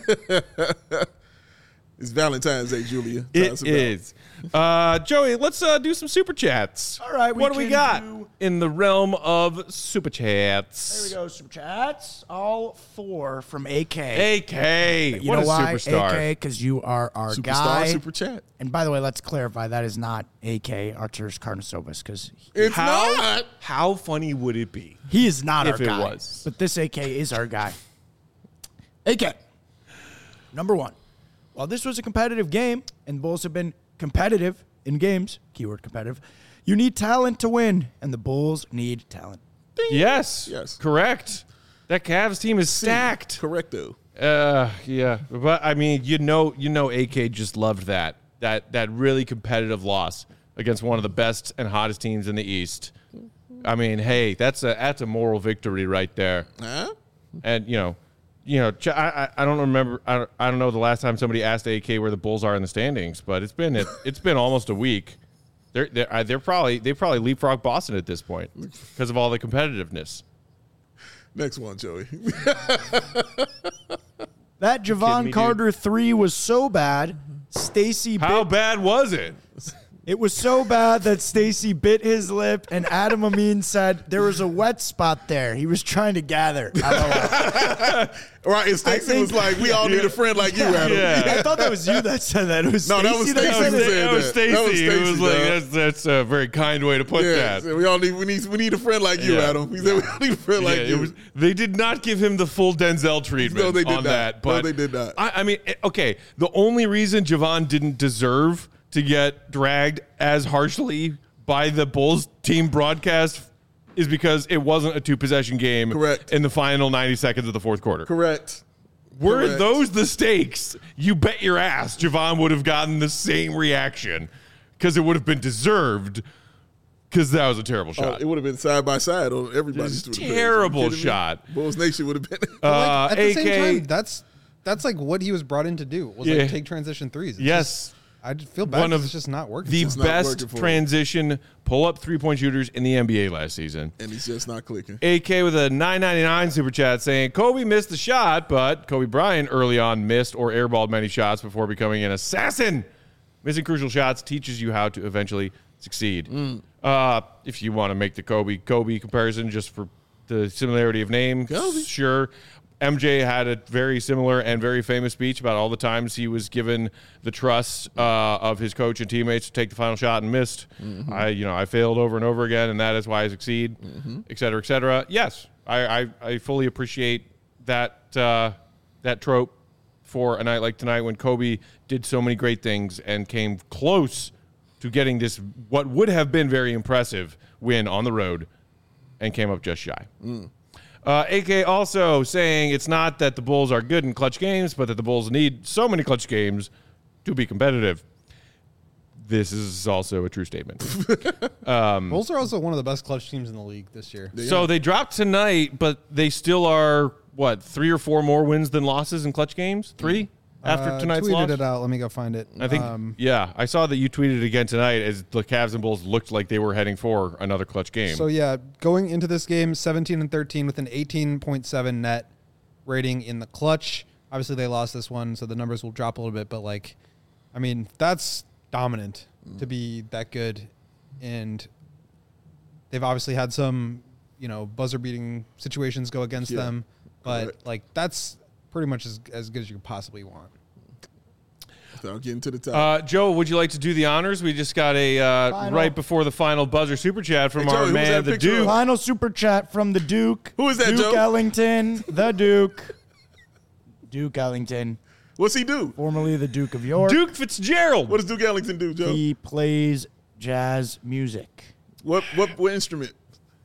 B: It's Valentine's Day, Julia. Tell us
A: It
B: about
A: is. Uh, Joey, let's uh, do some super chats.
D: All right, we
A: what do we
D: can
A: got
D: do-
A: in the realm of super chats?
D: There we go, super chats. All four from A K.
A: A K,
D: You
A: what
D: know
A: a
D: why?
A: superstar.
D: A K, because you are our
B: Superstar
D: guy.
B: Super Chat.
D: And by the way, let's clarify that is not A K Arturas Karnisovas because
B: It's
A: How
B: not.
A: how funny would it be?
D: he is not
A: If
D: our
A: it
D: guy.
A: was.
D: But this A K is our guy. A K, number one. While this was a competitive game, and the Bulls have been competitive in games, keyword competitive, you need talent to win, and the Bulls need talent.
A: Yes,
B: Yes.
A: correct. That Cavs team is stacked.
B: Correcto.
A: Uh, yeah, but I mean, you know, you know, A K just loved that that that really competitive loss against one of the best and hottest teams in the East. I mean, hey, that's a that's a moral victory right there.
B: Huh?
A: And you know, you know, Ch- I, I I don't remember. I don't, I don't know the last time somebody asked A K where the Bulls are in the standings, but it's been it, it's been almost a week. They're they're, they're probably they probably leapfrog Boston at this point because of all the competitiveness.
B: Next one, Joey.
D: That
A: kidding
D: Javon
A: me,
D: Carter three was so bad, Stacy
A: How
D: bit,
A: bad was it?
D: it was so bad that Stacy bit his lip, and Adam Amin said there was a wet spot there. He was trying to gather.
B: Right, and Stacey
D: think-
B: was like, "We all need a friend like you, Adam."
A: Yeah.
D: I thought that was you that said that. It was
B: No, that was
D: Stacey
B: Stacey
D: said
B: who
D: it.
B: said
A: That was
B: that. That was
A: Stacy who was
B: Stacey,
A: like,
B: dog.
A: that's, that's a very kind way to put
B: Yeah,
A: that.
B: so we all need we need we need a friend like you,
A: Yeah.
B: Adam. We said we all need a friend like
A: Yeah,
B: you.
A: it was, they did not give him the full Denzel treatment
B: No, they did
A: on
B: not.
A: that.
B: No,
A: But
B: they did not.
A: I, I mean, eh, okay, the only reason Javon didn't deserve to get dragged as harshly by the Bulls team broadcast is because it wasn't a two-possession game
B: Correct.
A: in the final ninety seconds of the fourth quarter.
B: Correct.
A: Were
B: Correct.
A: those the stakes? You bet your ass Javon would have gotten the same reaction because it would have been deserved because that was a terrible
B: Oh,
A: shot.
B: it would have been side by side on everybody's
A: Just
B: Twitter page.
A: terrible
B: Are you kidding me?
A: shot.
B: Bulls Nation would have been.
A: Uh,
C: Like, at the
A: A K,
C: same time, that's that's like what he was brought in to do. Was
A: Yeah.
C: like take transition threes. It's
A: yes.
C: just- I just feel bad.
A: One
C: 'cause
A: of
C: it's just not working.
A: the
C: for him.
B: It's not
A: best
B: working for him.
A: transition pull-up three-point shooters in the N B A last season.
B: and he's just not clicking.
A: A K with a nine ninety-nine super chat saying, Kobe missed the shot, but Kobe Bryant early on missed or airballed many shots before becoming an assassin. Missing crucial shots teaches you how to eventually succeed.
B: Mm.
A: Uh, if you want to make the Kobe Kobe comparison just for the similarity of name,
B: Kobe.
A: sure. M J had a very similar and very famous speech about all the times he was given the trust uh, of his coach and teammates to take the final shot and missed.
B: Mm-hmm.
A: I, you know, I failed over and over again, and that is why I succeed,
B: Mm-hmm.
A: et cetera, et cetera. Yes, I, I, I fully appreciate that uh, that trope for a night like tonight when Kobe did so many great things and came close to getting this what would have been very impressive win on the road and came up just shy.
B: Mm.
A: Uh, A K also saying it's not that the Bulls are good in clutch games, but that the Bulls need so many clutch games to be competitive. This is also a true statement.
C: Bulls are also one of the best clutch teams in the league this year.
A: So they dropped tonight, but they still are, what, three or four more wins than losses in clutch games? Three after
C: Uh,
A: tonight's
C: tweeted
A: loss?
C: it out. Let me go find it.
A: I think,
C: Um,
A: yeah, I saw that you tweeted it again tonight as the Cavs and Bulls looked like they were heading for another clutch game.
C: So yeah, going into this game, seventeen and thirteen with an eighteen point seven net rating in the clutch. Obviously, they lost this one, so the numbers will drop a little bit. But like, I mean, that's dominant to be that good, and they've obviously had some, you know, buzzer beating situations go against
B: Yeah,
C: them. But
B: correct.
C: like, that's pretty much as as good as you could possibly want.
B: Without getting to the top.
A: Uh, Joe, would you like to do the honors? We just got a uh,
D: Final.
A: right before the final buzzer super chat from
B: Hey, Joey,
A: our
B: who's
A: man,
B: that
A: the
B: picture of?
A: Duke.
D: Final super chat from the Duke.
B: Who is that,
D: Duke
B: Joe?
D: Ellington, the Duke. Duke Ellington,
B: What's he do?
D: formerly the Duke of York.
A: Duke Fitzgerald.
B: What does Duke Ellington do, Joe?
D: He plays jazz music.
B: What what what instrument?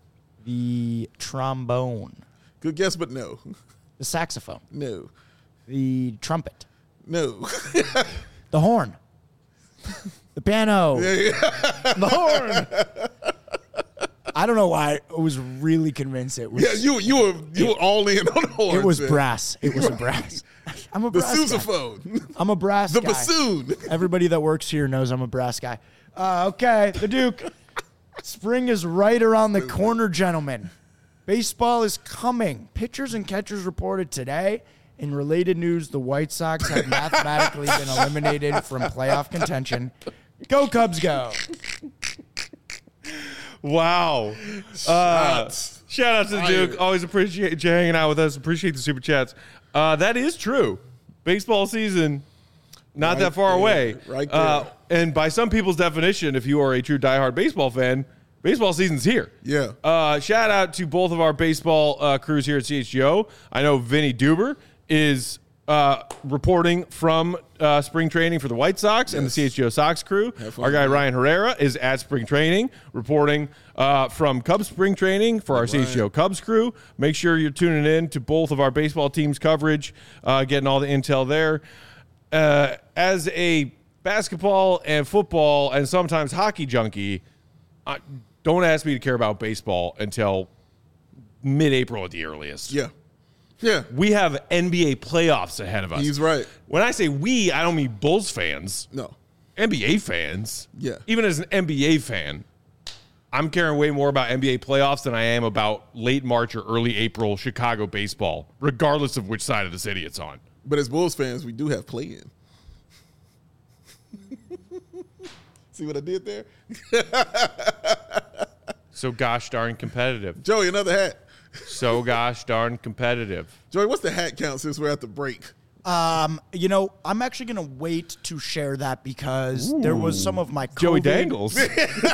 D: The trombone.
B: Good guess, but no,
D: The saxophone.
B: no,
D: The trumpet.
B: no.
D: The horn. The piano.
C: The horn.
D: I don't know why I was really convinced it was
B: Yeah, you you were you were all in on the horn.
D: it was
B: man.
D: brass. It was a brass. I'm a
B: The
D: brass guy.
B: sousaphone,
D: I'm a brass
B: the
D: guy.
B: bassoon.
D: Everybody that works here knows I'm a brass guy. Uh, okay, the Duke. Spring is right around the corner, gentlemen. Baseball is coming. Pitchers and catchers reported today. In related news, the White Sox have mathematically been eliminated from playoff contention. Go Cubs, go.
A: Wow. Uh, shout out to the Duke. Always appreciate you hanging out with us. Appreciate the super chats. Uh, that is true. Baseball season, not
B: Right
A: that far
B: there,
A: away.
B: right
A: Uh,
B: there.
A: and by some people's definition, if you are a true diehard baseball fan, baseball season's here.
B: Yeah.
A: Uh, shout out to both of our baseball uh, crews here at C H G O. I know Vinny Duber is uh, reporting from uh, spring training for the White Sox and the
B: Yes.
A: C H G O Sox crew.
B: Have fun
A: Our guy
B: with that.
A: Ryan Herrera is at spring training, reporting uh, from Cubs spring training for our C H G O Cubs crew. Make sure you're tuning in to both of our baseball teams' coverage, uh, getting all the intel there. Uh, as a basketball and football and sometimes hockey junkie, I, don't ask me to care about baseball until mid-April at the earliest.
B: Yeah. Yeah.
A: We have N B A playoffs ahead of us.
B: He's right.
A: When I say we, I don't mean Bulls fans.
B: No.
A: N B A fans.
B: Yeah.
A: Even as an N B A fan, I'm caring way more about N B A playoffs than I am about late March or early April Chicago baseball, regardless of which side of the city it's on.
B: But as Bulls fans, we do have play-in. See what I did there?
A: So gosh darn competitive.
B: Joey, another hat.
A: So gosh darn competitive.
B: Joey, what's the hat count since we're at the break?
D: Um, you know, I'm actually going to wait to share that because there was some of my COVID.
A: Joey Dangles.
C: Joey's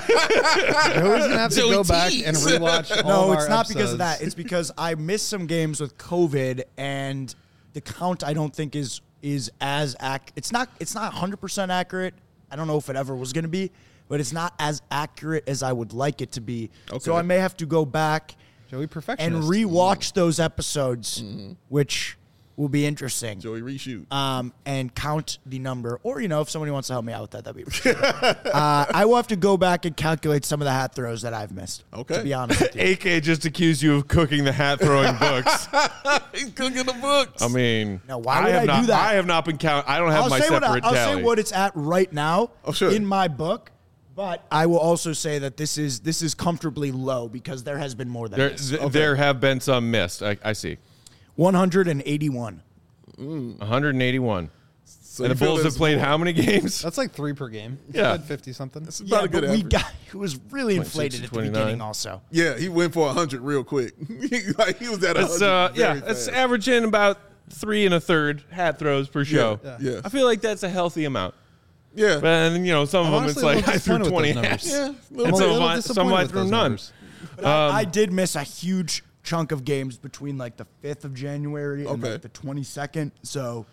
C: gonna have to
B: Joey
C: go back
B: Tees.
C: and rewatch. All
D: No,
C: of
D: it's
C: our
D: not because of
C: episodes.
D: that. It's because I missed some games with COVID, and the count I don't think is is as ac- It's not. It's not one hundred percent accurate. I don't know if it ever was going to be, but it's not as accurate as I would like it to be.
B: Okay.
D: So I may have to go back
C: Joey
D: and
C: perfectionist.
D: rewatch those episodes, which will be interesting.
B: Joey reshoot.
D: Um, and count the number, or you know, if somebody wants to help me out with that, that'd be. Really uh, I will have to go back and calculate some of the hat throws that I've missed.
B: Okay.
D: To be honest with you.
A: A K just accused you of cooking the hat throwing books.
B: He's cooking the books.
A: I mean,
D: Now, why would
A: have
D: I
A: not,
D: do that?
A: I have not been count. I don't have
D: I'll
A: my
D: say what I,
A: separate
D: I'll
A: tally.
D: say what it's at right now
B: Oh, sure.
D: in my book, but I will also say that this is this is comfortably low because there has been more than
A: there,
D: this.
A: th- there have been some missed. I, I see.
D: one hundred eighty-one.
A: one hundred eighty-one.
B: So
A: And
B: you
A: the
B: feel
A: Bulls have
B: there's
A: played
B: more.
A: how many games?
C: That's like three per game.
A: Yeah.
C: fifty something.
B: It's
D: Yeah,
B: about a good
D: but we
B: average.
D: got it was really
A: twenty-six
D: inflated
A: to
D: at the
A: twenty-nine.
D: beginning also.
B: Yeah, he went for one hundred real quick. Like he was at one
A: That's
B: hundred
A: uh, yeah,
B: very
A: that's
B: fast.
A: averaging about three and a third hat throws per show.
B: Yeah, yeah.
A: I feel like that's a healthy amount.
B: Yeah.
A: But then, you know, some
C: I'm
A: of them it's
C: honestly a
A: like
C: little
A: I threw
C: disappointed with
A: twenty
C: those
A: hats.
C: numbers.
B: Yeah, a
A: And
B: little
A: some
B: bit.
A: of
C: little
A: I, some
C: disappointed
A: I
C: with
A: threw
C: those
A: none.
C: numbers.
D: But I, I did miss a huge chunk of games between like the fifth of January and
B: Okay.
D: like the twenty-second. So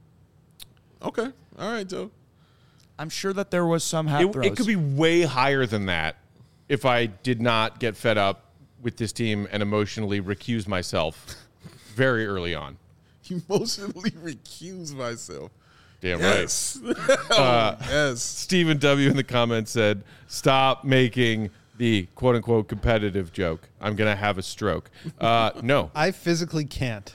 B: Okay. All right, Joe.
D: I'm sure that there was some hat
A: It,
D: throws.
A: it could be way higher than that if I did not get fed up with this team and emotionally recuse myself very early on.
B: Emotionally recuse myself.
A: Damn right.
B: Yes. oh, yes.
A: Stephen W. in the comments said, stop making the quote unquote competitive joke. I'm going to have a stroke. Uh, no,
C: I physically can't.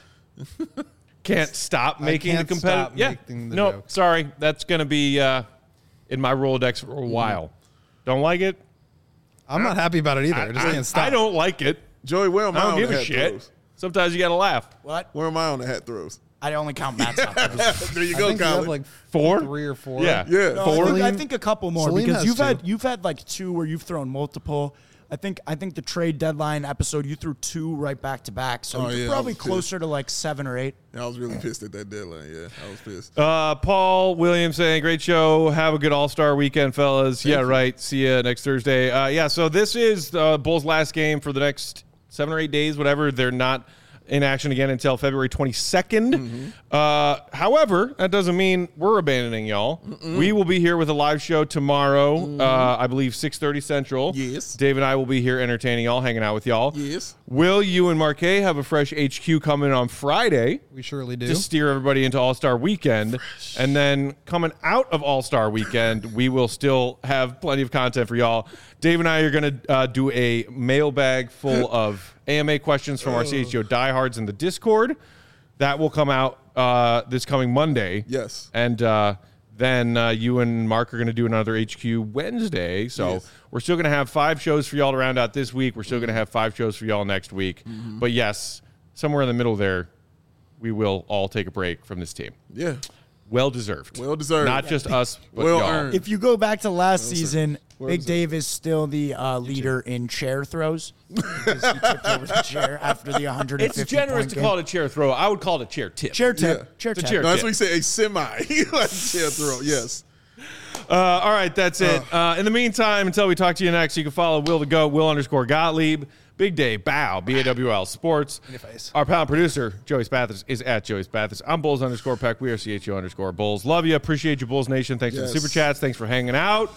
A: can't stop making
C: can't
A: the competitive.
C: stop
A: Yeah.
C: making the
A: No,
C: joke.
A: sorry. That's going to be uh, in my Rolodex for a while. Don't like it?
C: I'm not happy about it either. I, just
A: I,
C: can't stop.
A: I don't like it.
B: Joey, where am I,
A: I don't
B: on
A: give
B: the
A: a
B: hat
A: shit.
B: throws?
A: Sometimes you got to laugh.
D: What?
B: Where am I on the hat throws?
D: I only count bats out. throws.
B: There you
C: I
B: go,
C: think you have
B: Colin.
C: like
A: Four?
C: three or four.
A: Yeah.
B: yeah.
D: No, I,
A: Four?
D: think, I
C: Salim-
D: think a couple more
C: Salim
D: because
C: has
D: you've had
C: two.
D: you've had like two where you've thrown multiple. I think I think the trade deadline episode you threw two right back to back, so
B: Oh,
D: you're
B: yeah, I
D: probably
B: was pissed.
D: closer to like seven or eight.
B: I was really pissed at that deadline. Yeah, I was pissed.
A: Uh, Paul Williams saying, great show. Have a good All-Star weekend, fellas. yeah,
B: you.
A: right. See you next Thursday. Uh, yeah, so this is uh, Bulls' last game for the next seven or eight days, whatever. They're not in action again until February twenty-second.
B: Mm-hmm.
A: Uh, however, that doesn't mean we're abandoning y'all.
B: Mm-mm.
A: We will be here with a live show tomorrow, uh, I believe six thirty Central.
B: Yes.
A: Dave and I will be here entertaining y'all, hanging out with y'all.
B: Yes.
A: Will you and Marquet have a fresh H Q coming on Friday?
C: We surely do.
A: To steer everybody into All-Star Weekend. And then coming out of All-Star Weekend, we will still have plenty of content for y'all. Dave and I are going to uh, do a mailbag full of A M A questions from our C H G O diehards in the Discord. That will come out uh, this coming Monday.
B: Yes.
A: And uh, then uh, you and Mark are going to do another H Q Wednesday. So
B: Yes.
A: we're still going to have five shows for y'all to round out this week. We're still going to have five shows for y'all next week.
B: Mm-hmm.
A: But yes, somewhere in the middle there, we will all take a break from this team.
B: Yeah.
A: Well deserved.
B: Well deserved.
A: Not just us, but
B: Well
A: y'all.
B: earned.
D: If you go back to last season,
B: Where
D: Big
B: was it?
D: Dave is still the uh, leader in chair throws because he tipped over the chair after the one hundred fifty
A: It's generous
D: point
A: to
D: game.
A: call it a chair throw. I would call it a chair tip.
D: chair tip.
B: Yeah.
D: Chair
A: It's a
D: tip.
A: chair
B: No, that's
A: tip.
B: what you say, a semi. like chair throw. Yes.
A: Uh, all right, that's it. Uh, in the meantime, until we talk to you next, you can follow Will the Goat, Will underscore Gottlieb, Big Day, Bow, B A W L Sports.
C: face.
A: Our pal producer, Joey Spathis, is at Joey Spathis. I'm Bulls underscore Peck. We are C H O underscore Bulls. Love you. Appreciate you, Bulls Nation. Thanks for
B: Yes.
A: the super chats. Thanks for hanging out.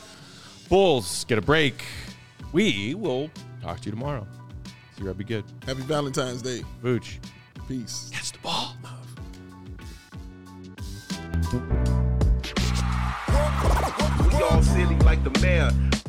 A: Bulls, get a break. We will talk to you tomorrow. See you. Be good.
B: Happy Valentine's Day.
A: Vooch.
B: Peace.
A: Catch the ball.
F: We all silly like the mayor.